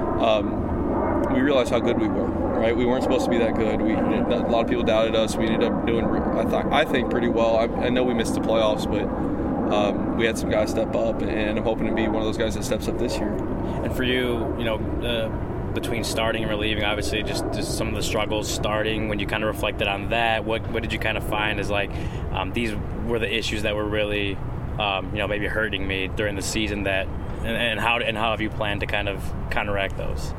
we realized how good we were, right? We weren't supposed to be that good. A lot of people doubted us. We ended up doing, I think, pretty well. I know we missed the playoffs, but we had some guys step up, and I'm hoping to be one of those guys that steps up this year. And for you, between starting and relieving, obviously just some of the struggles starting, when you kind of reflected on that, what did you kind of find as these were the issues that were really maybe hurting me during the season, that and how have you planned to kind of counteract those?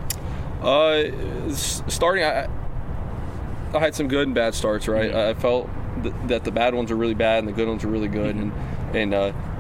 Starting, I had some good and bad starts, right? Mm-hmm. I felt that the bad ones are really bad and the good ones are really good, mm-hmm. and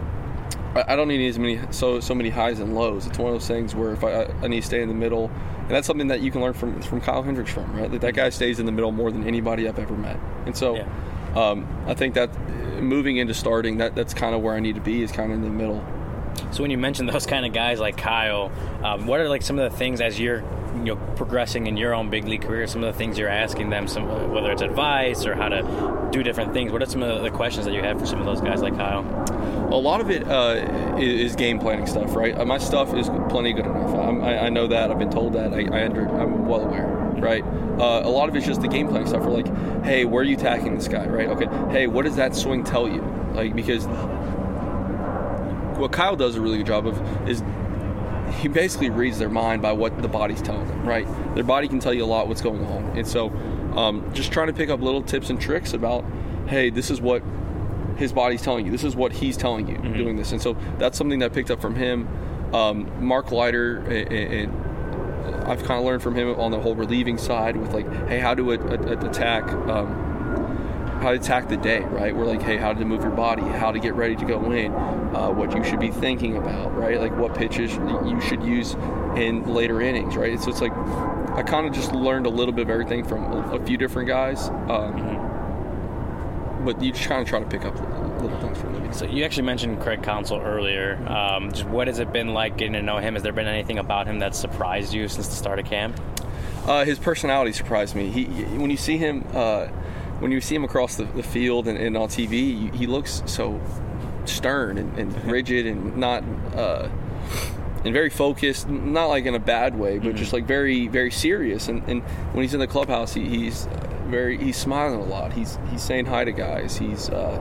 I don't need as many so many highs and lows. It's one of those things where if I need to stay in the middle, and that's something that you can learn from Kyle Hendricks right? That guy stays in the middle more than anybody I've ever met. And so I think that moving into starting, that's kind of where I need to be, is kind of in the middle. So when you mention those kind of guys like Kyle, what are some of the things as you're progressing in your own big league career, some of the things you're asking them, whether it's advice or how to do different things? What are some of the questions that you have for some of those guys like Kyle? A lot of it is game planning stuff, right? My stuff is plenty good enough. I know that. I've been told that. I'm well aware, right? A lot of it's just the game planning stuff. We're like, hey, where are you attacking this guy, right? Okay, hey, what does that swing tell you? Because what Kyle does a really good job of is he basically reads their mind by what the body's telling them, right? Their body can tell you a lot what's going on. And so just trying to pick up little tips and tricks about, hey, this is what his body's telling you. This is what he's telling you, mm-hmm. doing this. And so that's something that I picked up from him. Mark Leiter, and I've kind of learned from him on the whole relieving side with hey, how to attack the day, right? We're hey, how to move your body, how to get ready to go in, what you should be thinking about, right? What pitches you should use in later innings, right? So it's I kind of just learned a little bit of everything from a few different guys, but you just kind of try to pick up little things from them. So you actually mentioned Craig Counsell earlier. Just what has it been like getting to know him? Has there been anything about him that surprised you since the start of camp? His personality surprised me. When you see him across the field and on TV, he looks so stern and rigid and not and very focused, not in a bad way, but mm-hmm. just very, very serious. And when he's in the clubhouse, he's smiling a lot. He's saying hi to guys. He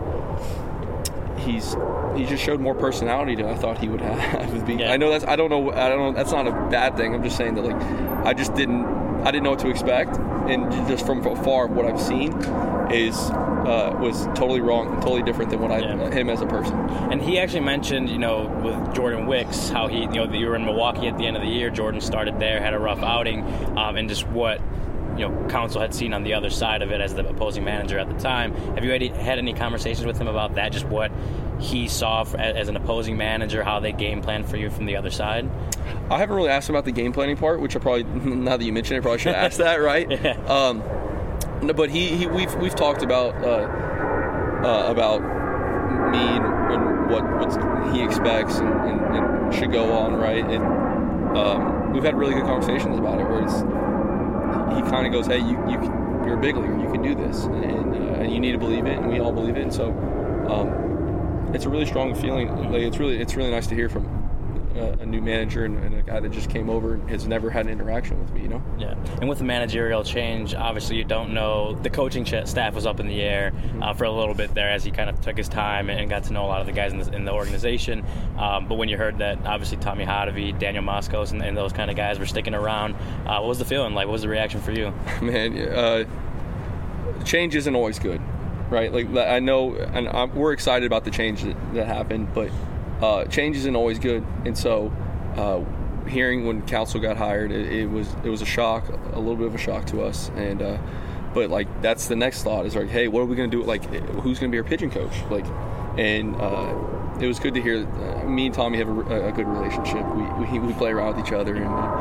just showed more personality than I thought he would have. I know I don't know. That's not a bad thing. I'm just saying that I didn't know what to expect, and just from afar, what I've seen was totally wrong, totally different than what him as a person. And he actually mentioned, with Jordan Wicks, how you were in Milwaukee at the end of the year. Jordan started there, had a rough outing, and just what Counsell had seen on the other side of it as the opposing manager at the time. Have you had any conversations with him about that? Just what he saw as an opposing manager, how they game plan for you from the other side? I haven't really asked him about the game planning part, which I probably, now that you mention it, I probably should ask that, right? Yeah. No, but we've talked about me and what he expects and should go on, right? And we've had really good conversations about it, where he kind of goes, hey, you're a big leaguer, you can do this, and you need to believe it, and we all believe it. And so it's a really strong feeling. It's really nice to hear from a new manager and a guy that just came over and has never had an interaction with me, Yeah, and with the managerial change, obviously you don't know. The coaching staff was up in the air for a little bit there as he kind of took his time and got to know a lot of the guys in the organization. But when you heard that, obviously Tommy Hotovy, Daniel Moskos, and those kind of guys were sticking around, what was the feeling like? What was the reaction for you? Man, change isn't always good, right? Like, I know, and we're excited about the change that happened, but change isn't always good. And so hearing when Council got hired, it was a shock, a little bit of a shock to us. And but like, that's the next thought is like, hey, what are we going to do? Like, who's going to be our pitching coach? Like, and it was good to hear. Me and Tommy have a good relationship. We play around with each other,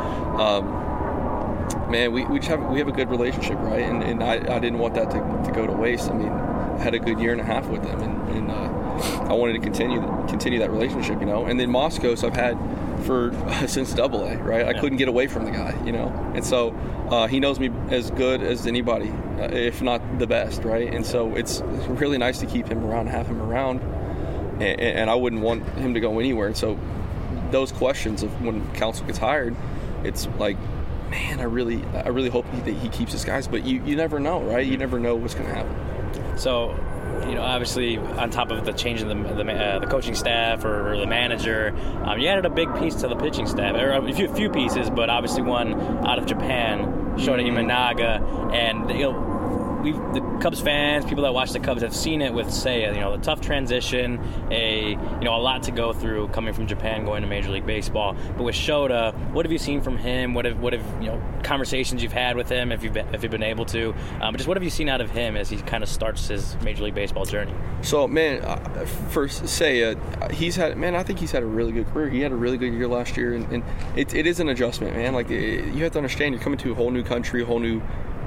and man, we have a good relationship, right? And I didn't want that to go to waste. I mean, I had a good year and a half with him, and I wanted to continue that relationship, you know. And then Moskos I've had since AA, right? I couldn't get away from the guy, you know. And so he knows me as good as anybody, if not the best, right? And so it's really nice to keep him around, have him around, and I wouldn't want him to go anywhere. And so those questions of when Council gets hired, it's like, man, I really hope that he keeps his guys, but you never know, right? You never know what's going to happen. So, you know, obviously, on top of the change in the coaching staff or the manager, you added a big piece to the pitching staff, or a few pieces, but obviously one out of Japan, Shota Imanaga, and you know, the Cubs fans, people that watch the Cubs, have seen it with Seiya. You know, the tough transition, a lot to go through coming from Japan going to Major League Baseball. But with Shota, what have you seen from him? What have conversations you've had with him, if you've been able to? But just what have you seen out of him as he kind of starts his Major League Baseball journey? So, man, for Seiya, I think he's had a really good career. He had a really good year last year, and it is an adjustment, man. Like, you have to understand, you're coming to a whole new country, a whole new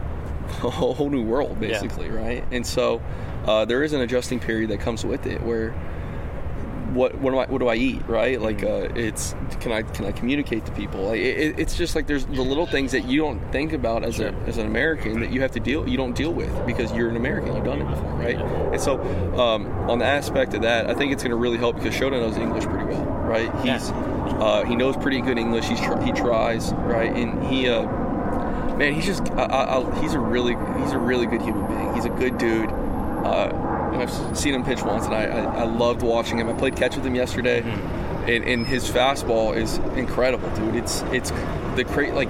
world, basically, right? And so there is an adjusting period that comes with it, where what do I eat, right? Like, it's can I communicate to people? Like, it's just like there's the little things that you don't think about as an American that you don't deal with because you're an American, you've done it before, right? And so on the aspect of that, I think it's going to really help because Shota knows English pretty well, right? He knows pretty good English. He tries, right? And he man, he's just he's a really good human being. He's a good dude. I've seen him pitch once, and I loved watching him. I played catch with him yesterday, and his fastball is incredible, dude. It's the like,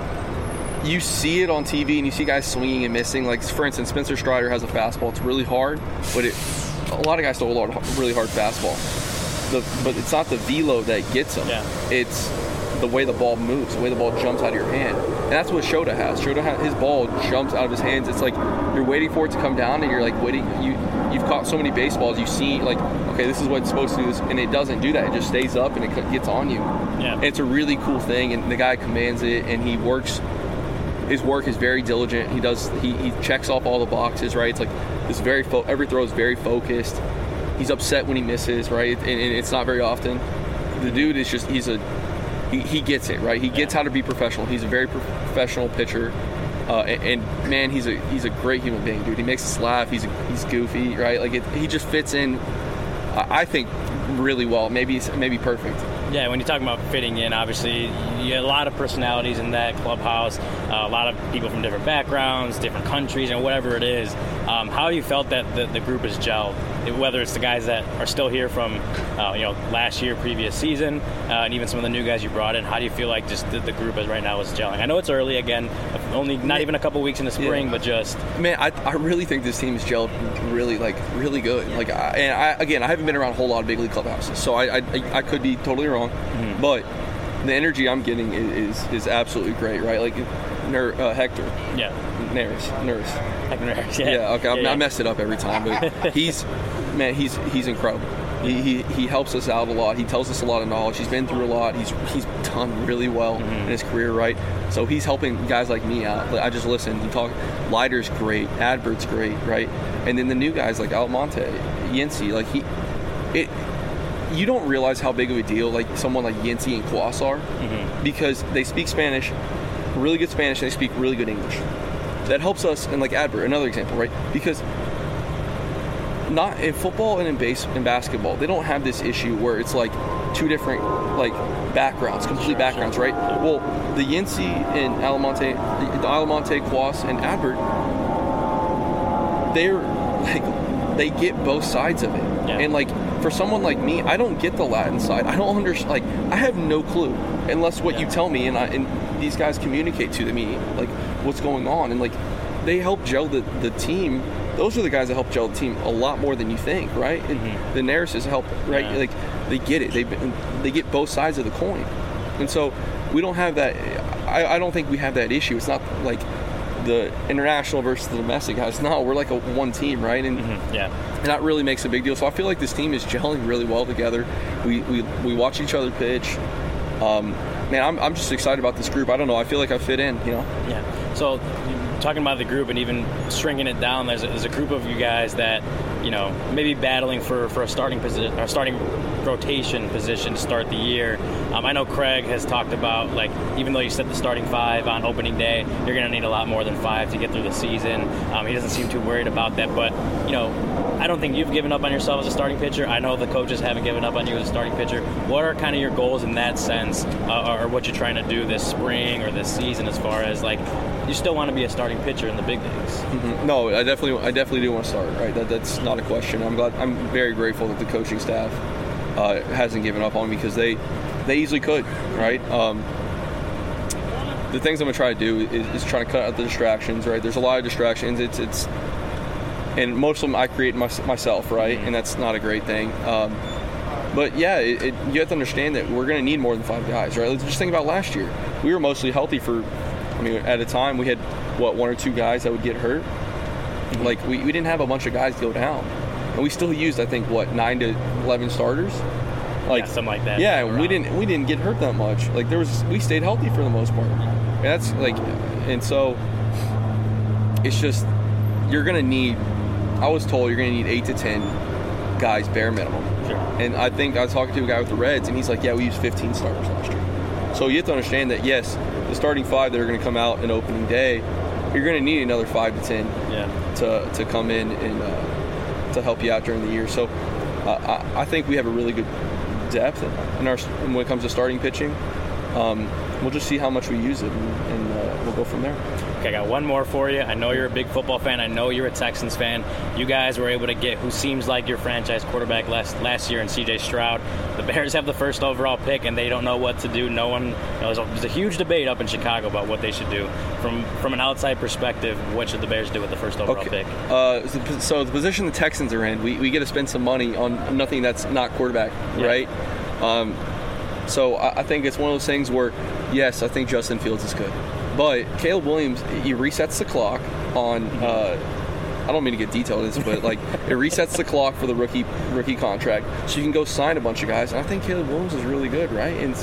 you see it on TV, and you see guys swinging and missing. Like, for instance, Spencer Strider has a fastball. It's really hard, but a lot of guys throw a really hard fastball. But it's not the velo that gets him. Yeah. It's the way the ball moves, the way the ball jumps out of your hand. And that's what Shota has. His ball jumps out of his hands. It's like you're waiting for it to come down, and you're like waiting. You've caught so many baseballs. You see, like, okay, this is what it's supposed to do, and it doesn't do that. It just stays up, and it gets on you. Yeah. And it's a really cool thing, and the guy commands it, and he works. His work is very diligent. He checks off all the boxes, right? It's like this every throw is very focused. He's upset when he misses, right? And it's not very often. The dude is just he gets it, right? He gets how to be professional. He's a very professional pitcher, and man, he's a great human being, dude. He makes us laugh. He's goofy, right? Like, he just fits in, I think, really well. Maybe perfect. Yeah, when you're talking about fitting in, obviously, you have a lot of personalities in that clubhouse, a lot of people from different backgrounds, different countries, and whatever it is. How have you felt that the group has gelled? Whether it's the guys that are still here from, last year, previous season, and even some of the new guys you brought in, how do you feel like just the group is right now is gelling? I know it's early again, only not even a couple weeks in the spring, but just... Man, I really think this team is gelled really good. Yeah. Like, I haven't been around a whole lot of big league clubhouses, so I could be totally wrong, but the energy I'm getting is absolutely great, right? Like, Hector. Yeah. Neris. Hector Neris, yeah. Okay, I messed it up every time, but he's incredible. He helps us out a lot. He tells us a lot of knowledge. He's been through a lot. He's done really well in his career, right? So he's helping guys like me out. I just listen. Leiter's great. Adbert's great, right? And then the new guys like Almonte, Yency, like you don't realize how big of a deal like someone like Yency and Kwas are because they speak Spanish, really good Spanish, and they speak really good English. That helps us. And like Adbert, another example, right? Because not in football and in basketball, they don't have this issue where it's like two different like backgrounds, complete backgrounds, right? Well, the Yancey and Alamonte, Quas, and Adbert, they're like, they get both sides of it. Yeah. And like, for someone like me, I don't get the Latin side. I don't understand. Like, I have no clue unless what you tell me and these guys communicate to me like what's going on, and like they help gel the team. Those are the guys that help gel the team a lot more than you think, right? And the Narises help, right? Yeah. Like they get it. They get both sides of the coin, and so we don't have that. I don't think we have that issue. It's not like the international versus the domestic guys. No, we're like a one team, right? And and that really makes a big deal. So I feel like this team is gelling really well together. We watch each other pitch. Man, I'm just excited about this group. I don't know. I feel like I fit in, you know? Yeah. So talking about the group and even shrinking it down, there's a group of you guys that, you know, maybe battling for a starting position, or starting rotation position to start the year. I know Craig has talked about, like, even though you set the starting 5 on opening day, you're going to need a lot more than 5 to get through the season. He doesn't seem too worried about that, but, you know, I don't think you've given up on yourself as a starting pitcher. I know the coaches haven't given up on you as a starting pitcher. What are kind of your goals in that sense, or what you're trying to do this spring or this season, as far as, like, you still want to be a starting pitcher in the big leagues? Mm-hmm. No, I definitely do want to start. Right, that's not a question. I'm very grateful that the coaching staff hasn't given up on me, because they easily could. Right. The things I'm gonna try to do is try to cut out the distractions. Right. There's a lot of distractions. It's and most of them I create myself. Right, and that's not a great thing. But yeah, you have to understand that we're gonna need more than 5 guys. Right. Let's just think about last year. We were mostly healthy for. I mean, at a time we had 1 or 2 guys that would get hurt. Like we didn't have a bunch of guys go down, and we still used, I think, 9 to 11 starters, like something like that. Yeah, we didn't get hurt that much. Like we stayed healthy for the most part. And that's like, and so it's just you're gonna need. I was told you're gonna need 8 to 10 guys bare minimum. Sure. And I think I was talking to a guy with the Reds, and he's like, "Yeah, we used 15 starters last year." So you have to understand that yes, the starting 5 that are going to come out in opening day, you're going to need another 5 to 10 to come in and to help you out during the year. So I think we have a really good depth when it comes to starting pitching. We'll just see how much we use it, and we'll go from there. Okay, I got one more for you. I know you're a big football fan. I know you're a Texans fan. You guys were able to get who seems like your franchise quarterback last year in C.J. Stroud. The Bears have the first overall pick, and they don't know what to do. No one. There's a huge debate up in Chicago about what they should do. From an outside perspective, what should the Bears do with the first overall pick? So the position the Texans are in, we get to spend some money on nothing that's not quarterback, right? So I think it's one of those things where, yes, I think Justin Fields is good. But Caleb Williams, he resets the clock on. I don't mean to get detailed in this, but like it resets the clock for the rookie contract, so you can go sign a bunch of guys. And I think Caleb Williams is really good, right? And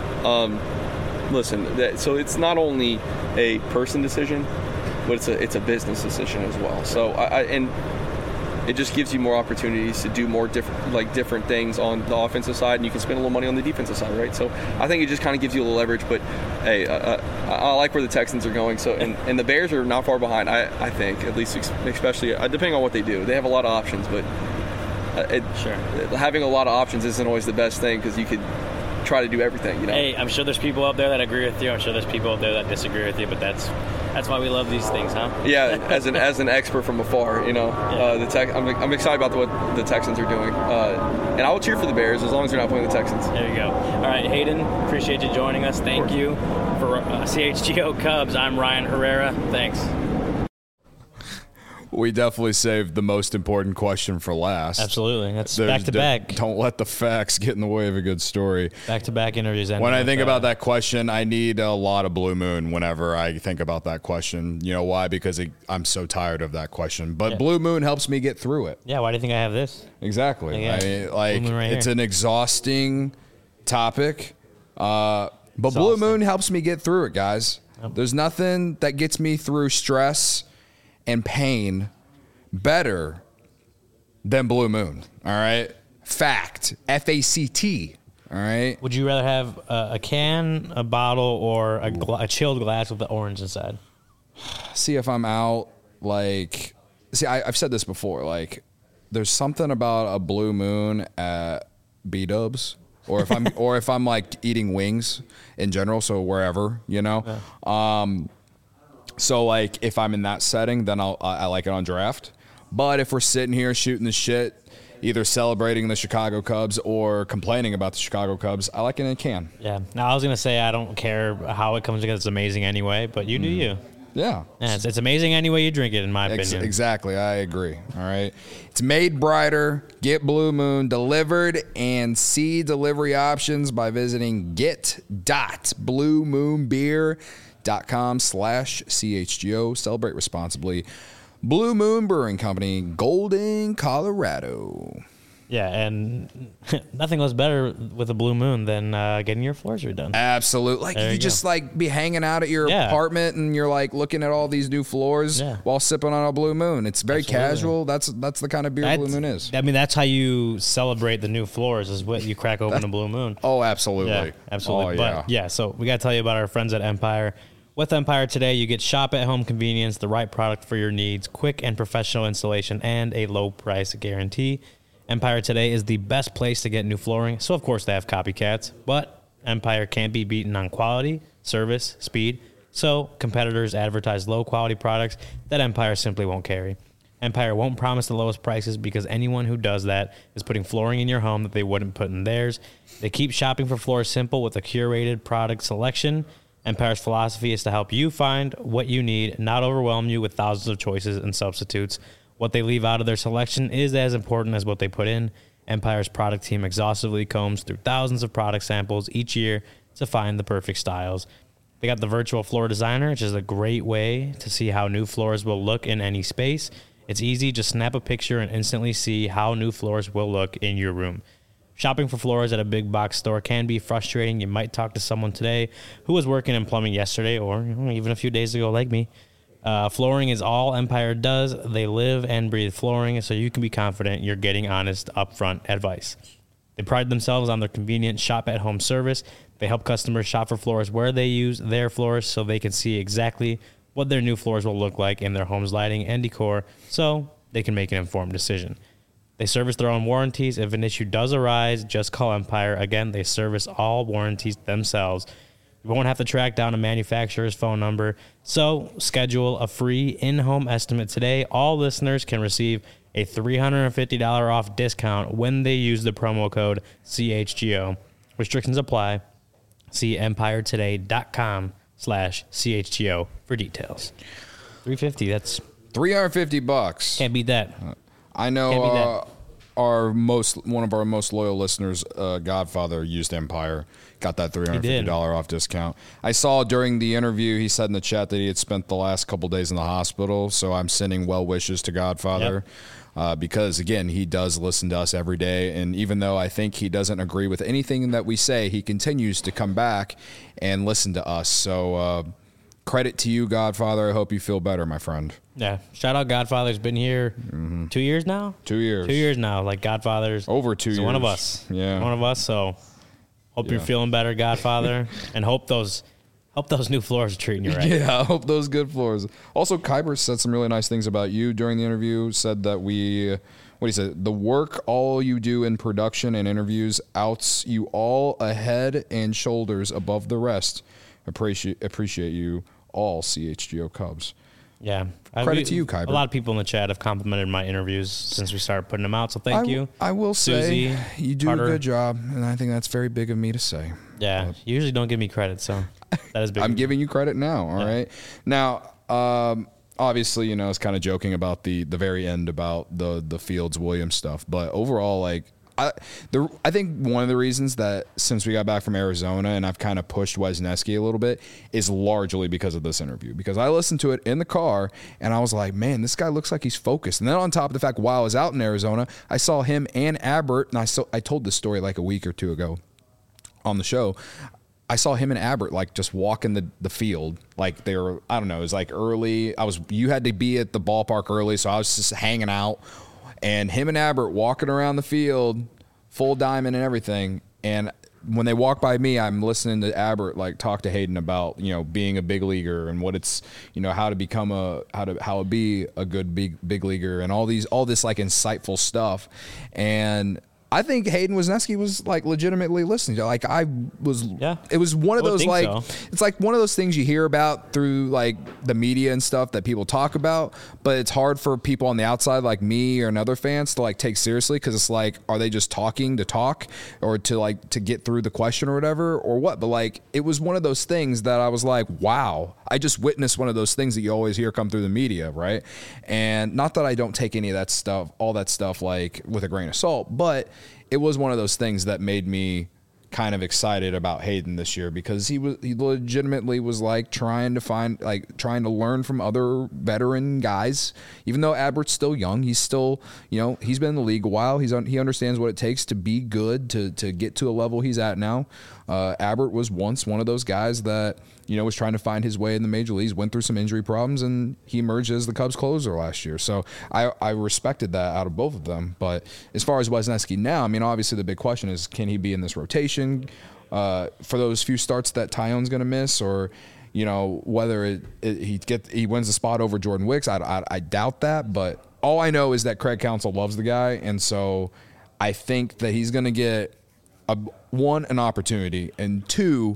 listen, so it's not only a person decision, but it's a business decision as well. So and it just gives you more opportunities to do more different things on the offensive side, and you can spend a little money on the defensive side, right? So I think it just kind of gives you a little leverage. But hey, I like where the Texans are going. So and the Bears are not far behind. I think, at least, especially depending on what they do. They have a lot of options, but having a lot of options isn't always the best thing, because you could try to do everything. You know. Hey, I'm sure there's people out there that agree with you. I'm sure there's people out there that disagree with you. But that's why we love these things, huh? Yeah, as an expert from afar, you know, I'm excited about what the Texans are doing, and I will cheer for the Bears as long as they're not playing the Texans. There you go. All right, Hayden, appreciate you joining us. Thank you. For CHGO Cubs, I'm Ryan Herrera. Thanks. We definitely saved the most important question for last. Absolutely. That's back-to-back. Don't let the facts get in the way of a good story. Back-to-back interviews. When I think about that question, I need a lot of Blue Moon whenever I think about that question. You know why? Because I'm so tired of that question. But Blue Moon helps me get through it. Yeah, why do you think I have this? Exactly. I mean, it's an exhausting topic. But Blue Moon helps me get through it, guys. Yep. There's nothing that gets me through stress and pain better than Blue Moon. All right. Fact. FACT. All right. Would you rather have a can, a bottle, or a chilled glass with the orange inside? See, if I'm out, I've said this before. Like, there's something about a Blue Moon at B-Dubs or if I'm like eating wings in general, so wherever, you know. So like if I'm in that setting, then I like it on draft. But if we're sitting here shooting the shit, either celebrating the Chicago Cubs or complaining about the Chicago Cubs, I like it in a can. Yeah. Now I was gonna say I don't care how it comes together. It's amazing anyway, but you do you. Yeah. It's amazing any way you drink it, in my opinion. Exactly. I agree. All right. It's made brighter. Get Blue Moon delivered and see delivery options by visiting get.bluemoonbeer.com/CHGO. Celebrate responsibly. Blue Moon Brewing Company, Golden, Colorado. Yeah, and nothing goes better with a blue moon than getting your floors redone. Absolutely. Like you just like be hanging out at your apartment and you're like looking at all these new floors while sipping on a Blue Moon. It's very casual. That's the kind of beer Blue Moon is. I mean, that's how you celebrate the new floors, is what you crack open a Blue Moon. Oh, absolutely. Yeah, absolutely. Oh, but so we got to tell you about our friends at Empire. With Empire today, you get shop-at-home convenience, the right product for your needs, quick and professional installation, and a low price guarantee. Empire today is the best place to get new flooring, so of course they have copycats, but Empire can't be beaten on quality, service, speed, so competitors advertise low-quality products that Empire simply won't carry. Empire won't promise the lowest prices because anyone who does that is putting flooring in your home that they wouldn't put in theirs. They keep shopping for floors simple with a curated product selection. Empire's philosophy is to help you find what you need, not overwhelm you with thousands of choices and substitutes. What they leave out of their selection is as important as what they put in. Empire's product team exhaustively combs through thousands of product samples each year to find the perfect styles. They got the virtual floor designer, which is a great way to see how new floors will look in any space. It's easy, just snap a picture and instantly see how new floors will look in your room. Shopping for floors at a big box store can be frustrating. You might talk to someone today who was working in plumbing yesterday or even a few days ago like me. Flooring is all Empire does. They live and breathe flooring, so you can be confident you're getting honest, upfront advice. They pride themselves on their convenient shop-at-home service. They help customers shop for floors where they use their floors so they can see exactly what their new floors will look like in their home's lighting and decor so they can make an informed decision. They service their own warranties. If an issue does arise, just call Empire. Again, they service all warranties themselves. You won't have to track down a manufacturer's phone number. So schedule a free in-home estimate today. All listeners can receive a $350 off discount when they use the promo code CHGO. Restrictions apply. See empiretoday.com/CHGO for details. $350, that's $350. Can't beat that. I know one of our most loyal listeners, Godfather, used Empire, got that $350 off discount. I saw during the interview, he said in the chat that he had spent the last couple days in the hospital, so I'm sending well wishes to Godfather. Because, again, he does listen to us every day, and even though I think he doesn't agree with anything that we say, he continues to come back and listen to us. So credit to you, Godfather. I hope you feel better, my friend. Yeah. Shout out Godfather's been here 2 years now? 2 years. 2 years now. Like, Godfather's over 2 years. One of us. Yeah. One of us. So hope you're feeling better, Godfather, and hope those new floors are treating you right. Yeah, I hope those good floors. Also, Kuiper said some really nice things about you during the interview. Said that the work all you do in production and interviews outs you all ahead and shoulders above the rest. Appreciate you all, CHGO Cubs. Yeah. Credit to you, Kuiper. A lot of people in the chat have complimented my interviews since we started putting them out, so thank you. I will Susie, say you do Carter. a good job, and I think that's very big of me to say. Yeah, you usually don't give me credit, so that is big. I'm giving you credit now, all right? Now, obviously, it's kind of joking about the very end about the Fields-Williams stuff, but overall, like, I think one of the reasons that since we got back from Arizona and I've kind of pushed Wisniewski a little bit is largely because of this interview. Because I listened to it in the car and I was like, man, this guy looks like he's focused. And then on top of the fact, while I was out in Arizona, I saw him and Abbott, and I told this story like a week or two ago on the show. I saw him and Abbott like just walking the field. Like they were, I don't know, it was like early. You had to be at the ballpark early, so I was just hanging out. And him and Abbott walking around the field, full diamond and everything. And when they walk by me, I'm listening to Abbott like talk to Hayden about being a big leaguer and what it's how to become how to be a good big leaguer and all this like insightful stuff. And I think Hayden Wesneski was like legitimately listening to. Like I was, it was one of those like it's like one of those things you hear about through like the media and stuff that people talk about, but it's hard for people on the outside like me or another fans to like take seriously because it's like, are they just talking to talk or to get through the question or whatever or what? But like it was one of those things that I was like, wow, I just witnessed one of those things that you always hear come through the media, right? And not that I don't take any of that stuff, all that stuff like with a grain of salt, but it was one of those things that made me kind of excited about Hayden this year because he legitimately was like trying to learn from other veteran guys. Even though Abert's still young, he's still, he's been in the league a while. He understands what it takes to be good, to get to a level he's at now. Abert was once one of those guys that, was trying to find his way in the major leagues, went through some injury problems, and he emerged as the Cubs closer last year. So I respected that out of both of them. But as far as Wesneski now, I mean, obviously the big question is, can he be in this rotation for those few starts that Tyone's going to miss, or whether he wins the spot over Jordan Wicks? I doubt that, but all I know is that Craig Counsell loves the guy, and so I think that he's going to get an opportunity, and two,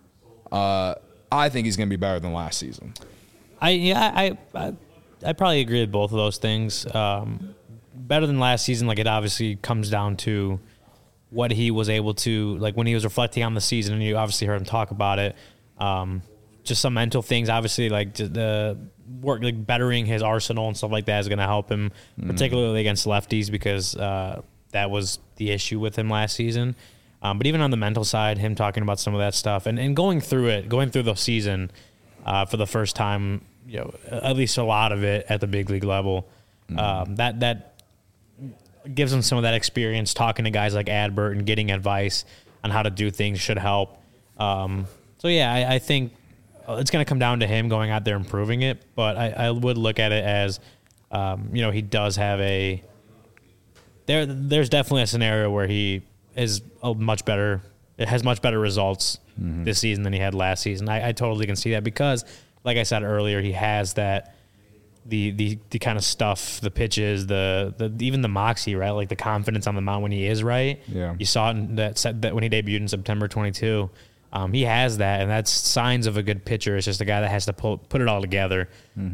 I think he's going to be better than last season. I probably agree with both of those things. Better than last season, like it obviously comes down to what he was able to, like when he was reflecting on the season, and you obviously heard him talk about it. Just some mental things, obviously, like the work, like bettering his arsenal and stuff like that is going to help him, particularly against lefties, because that was the issue with him last season. But even on the mental side, him talking about some of that stuff and going through the season for the first time, at least a lot of it at the big league level, that gives him some of that experience talking to guys like Adbert and getting advice on how to do things should help. I think it's going to come down to him going out there and proving it. But I would look at it as, he does have there's definitely a scenario where he is much better results this season than he had last season. I totally can see that because, like I said earlier, he has that the kind of stuff, the pitches, the even the moxie, right? Like the confidence on the mound when he is right. Yeah, you saw it in that when he debuted in September 22. He has that, and that's signs of a good pitcher. It's just a guy that has to put it all together.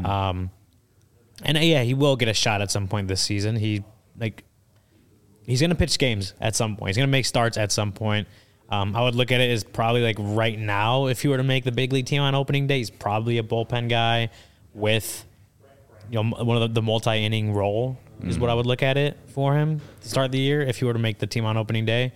He will get a shot at some point this season. He's going to pitch games at some point. He's going to make starts at some point. I would look at it as probably like right now, if he were to make the big league team on opening day, he's probably a bullpen guy with one of the multi-inning role is what I would look at it for him to start the year if he were to make the team on opening day.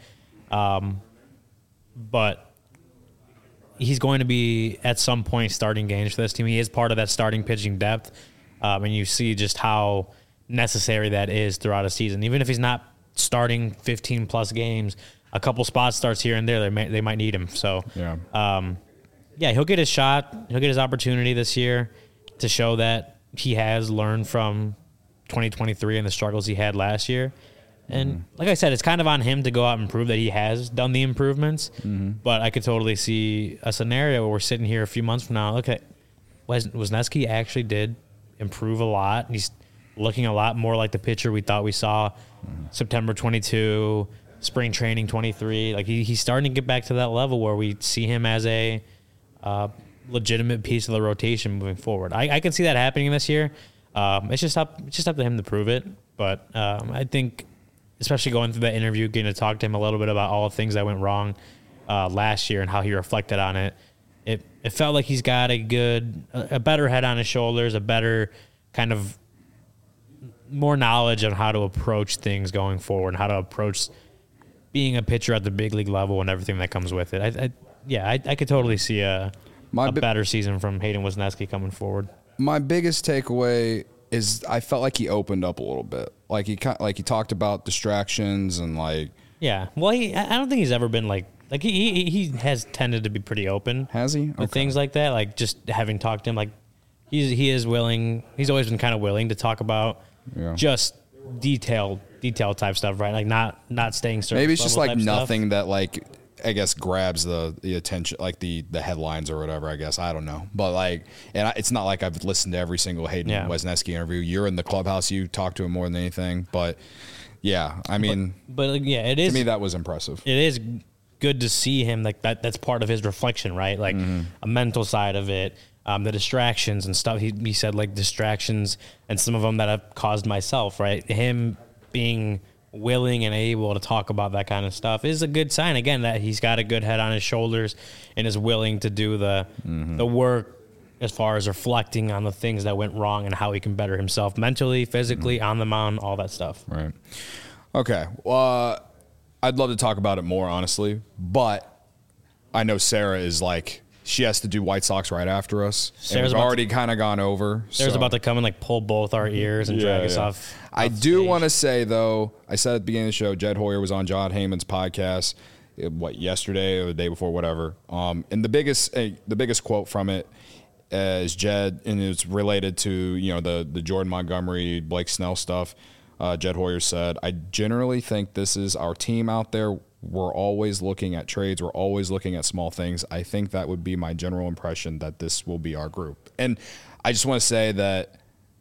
But he's going to be at some point starting games for this team. He is part of that starting pitching depth, and you see just how necessary that is throughout a season. Even if he's not starting 15-plus games, a couple spot starts here and there, they might need him. So, he'll get his shot. He'll get his opportunity this year to show that he has learned from 2023 and the struggles he had last year. And like I said, it's kind of on him to go out and prove that he has done the improvements. But I could totally see a scenario where we're sitting here a few months from now. Okay, Wesneski actually did improve a lot. He's looking a lot more like the pitcher we thought we saw September 22, spring training 23. Like he's starting to get back to that level where we see him as a legitimate piece of the rotation moving forward. I can see that happening this year. It's just up to him to prove it. But I think, especially going through that interview, getting to talk to him a little bit about all the things that went wrong last year and how he reflected on it, it felt like he's got a better head on his shoulders, a better kind of more knowledge on how to approach things going forward and how to approach being a pitcher at the big league level and everything that comes with it. I could totally see a better season from Hayden Wesneski coming forward. My biggest takeaway is I felt like he opened up a little bit. Like he talked about distractions and like. Yeah. Well, I don't think he's ever been like he has tended to be pretty open. Has he? With things like that, like just having talked to him, like he is willing. He's always been kind of willing to talk about just detail type stuff, right? Like not staying surface. Maybe it's just like nothing stuff. That like I guess grabs the attention, like the headlines or whatever, I guess. I don't know. But like, and it's not like I've listened to every single Hayden Wesneski interview. You're in the clubhouse, you talk to him more than anything. But yeah, I mean, but like, yeah, it is. To me, that was impressive. It is good to see him like that. That's part of his reflection, right? Like a mental side of it. The distractions and stuff. He said like distractions and some of them that I've caused myself, right? Him being willing and able to talk about that kind of stuff is a good sign. Again, that he's got a good head on his shoulders and is willing to do the work as far as reflecting on the things that went wrong and how he can better himself mentally, physically, on the mound, all that stuff. Right. Okay. Well, I'd love to talk about it more, honestly, but I know Sarah is like, she has to do White Sox right after us. Sarah's and we've already kind of gone over. Sarah's about to come and like pull both our ears and drag us off. I do want to say though, I said at the beginning of the show, Jed Hoyer was on John Heyman's podcast, yesterday or the day before, whatever. And the biggest quote from it is Jed, and it's related to the Jordan Montgomery, Blake Snell stuff. Jed Hoyer said, "I generally think this is our team out there. We're always looking at trades. We're always looking at small things. I think that would be my general impression, that this will be our group." And I just want to say that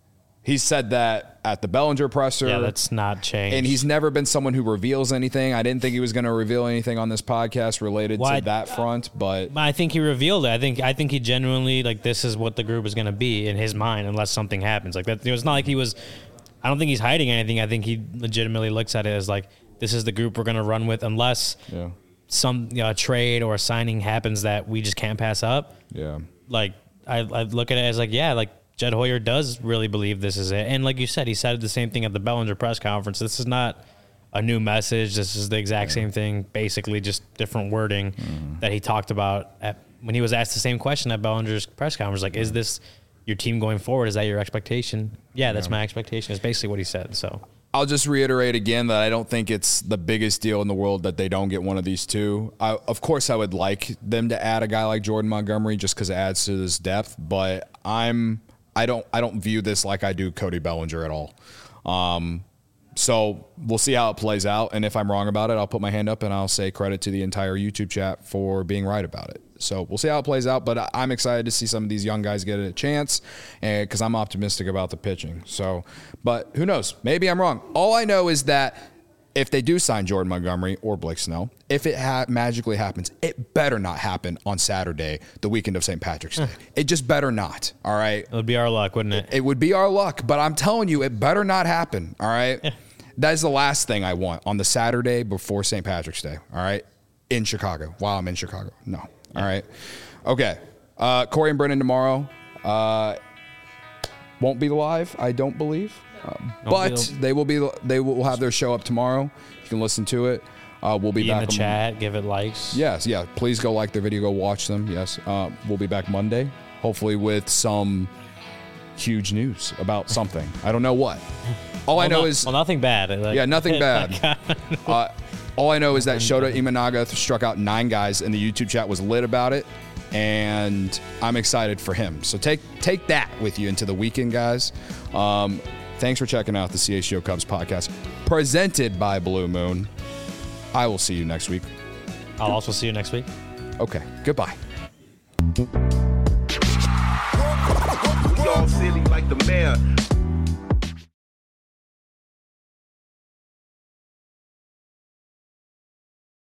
he said that at the Bellinger presser. Yeah, that's not changed. And he's never been someone who reveals anything. I didn't think he was going to reveal anything on this podcast related to that front, but I think he revealed it. I think he genuinely, like, this is what the group is going to be in his mind unless something happens. Like that, it's not like he was. I don't think he's hiding anything. I think he legitimately looks at it as like, this is the group we're going to run with unless some trade or a signing happens that we just can't pass up. Yeah. Like, I look at it as like, like Jed Hoyer does really believe this is it. And like you said, he said the same thing at the Bellinger press conference. This is not a new message. This is the exact same thing, basically just different wording that he talked about when he was asked the same question at Bellinger's press conference. Like, is this your team going forward? Is that your expectation? Yeah, that's my expectation is basically what he said. So I'll just reiterate again that I don't think it's the biggest deal in the world that they don't get one of these two. Of course, I would like them to add a guy like Jordan Montgomery just because it adds to this depth, but I don't view this like I do Cody Bellinger at all. So we'll see how it plays out, and if I'm wrong about it, I'll put my hand up and I'll say credit to the entire YouTube chat for being right about it. So we'll see how it plays out, but I'm excited to see some of these young guys get a chance because I'm optimistic about the pitching. So, but who knows? Maybe I'm wrong. All I know is that if they do sign Jordan Montgomery or Blake Snell, if it magically happens, it better not happen on Saturday, the weekend of St. Patrick's Day. It just better not, all right? It would be our luck, wouldn't it? It would be our luck, but I'm telling you, it better not happen, all right? Yeah. That is the last thing I want on the Saturday before St. Patrick's Day, all right? In Chicago, while I'm in Chicago. No. All right. Okay. Corey and Brennan tomorrow. Won't be live, I don't believe. But they will have their show up tomorrow. You can listen to it. We'll be back in the chat, give it likes. Yes, yeah. Please go like their video, go watch them. Yes. We'll be back Monday, hopefully with some huge news about something. I don't know what. All I know is nothing bad. Nothing bad. All I know is that Shota Imanaga struck out 9 guys, and the YouTube chat was lit about it, and I'm excited for him. So take that with you into the weekend, guys. Thanks for checking out the CHGO Cubs podcast, presented by Blue Moon. I will see you next week. I'll also see you next week. Okay, goodbye.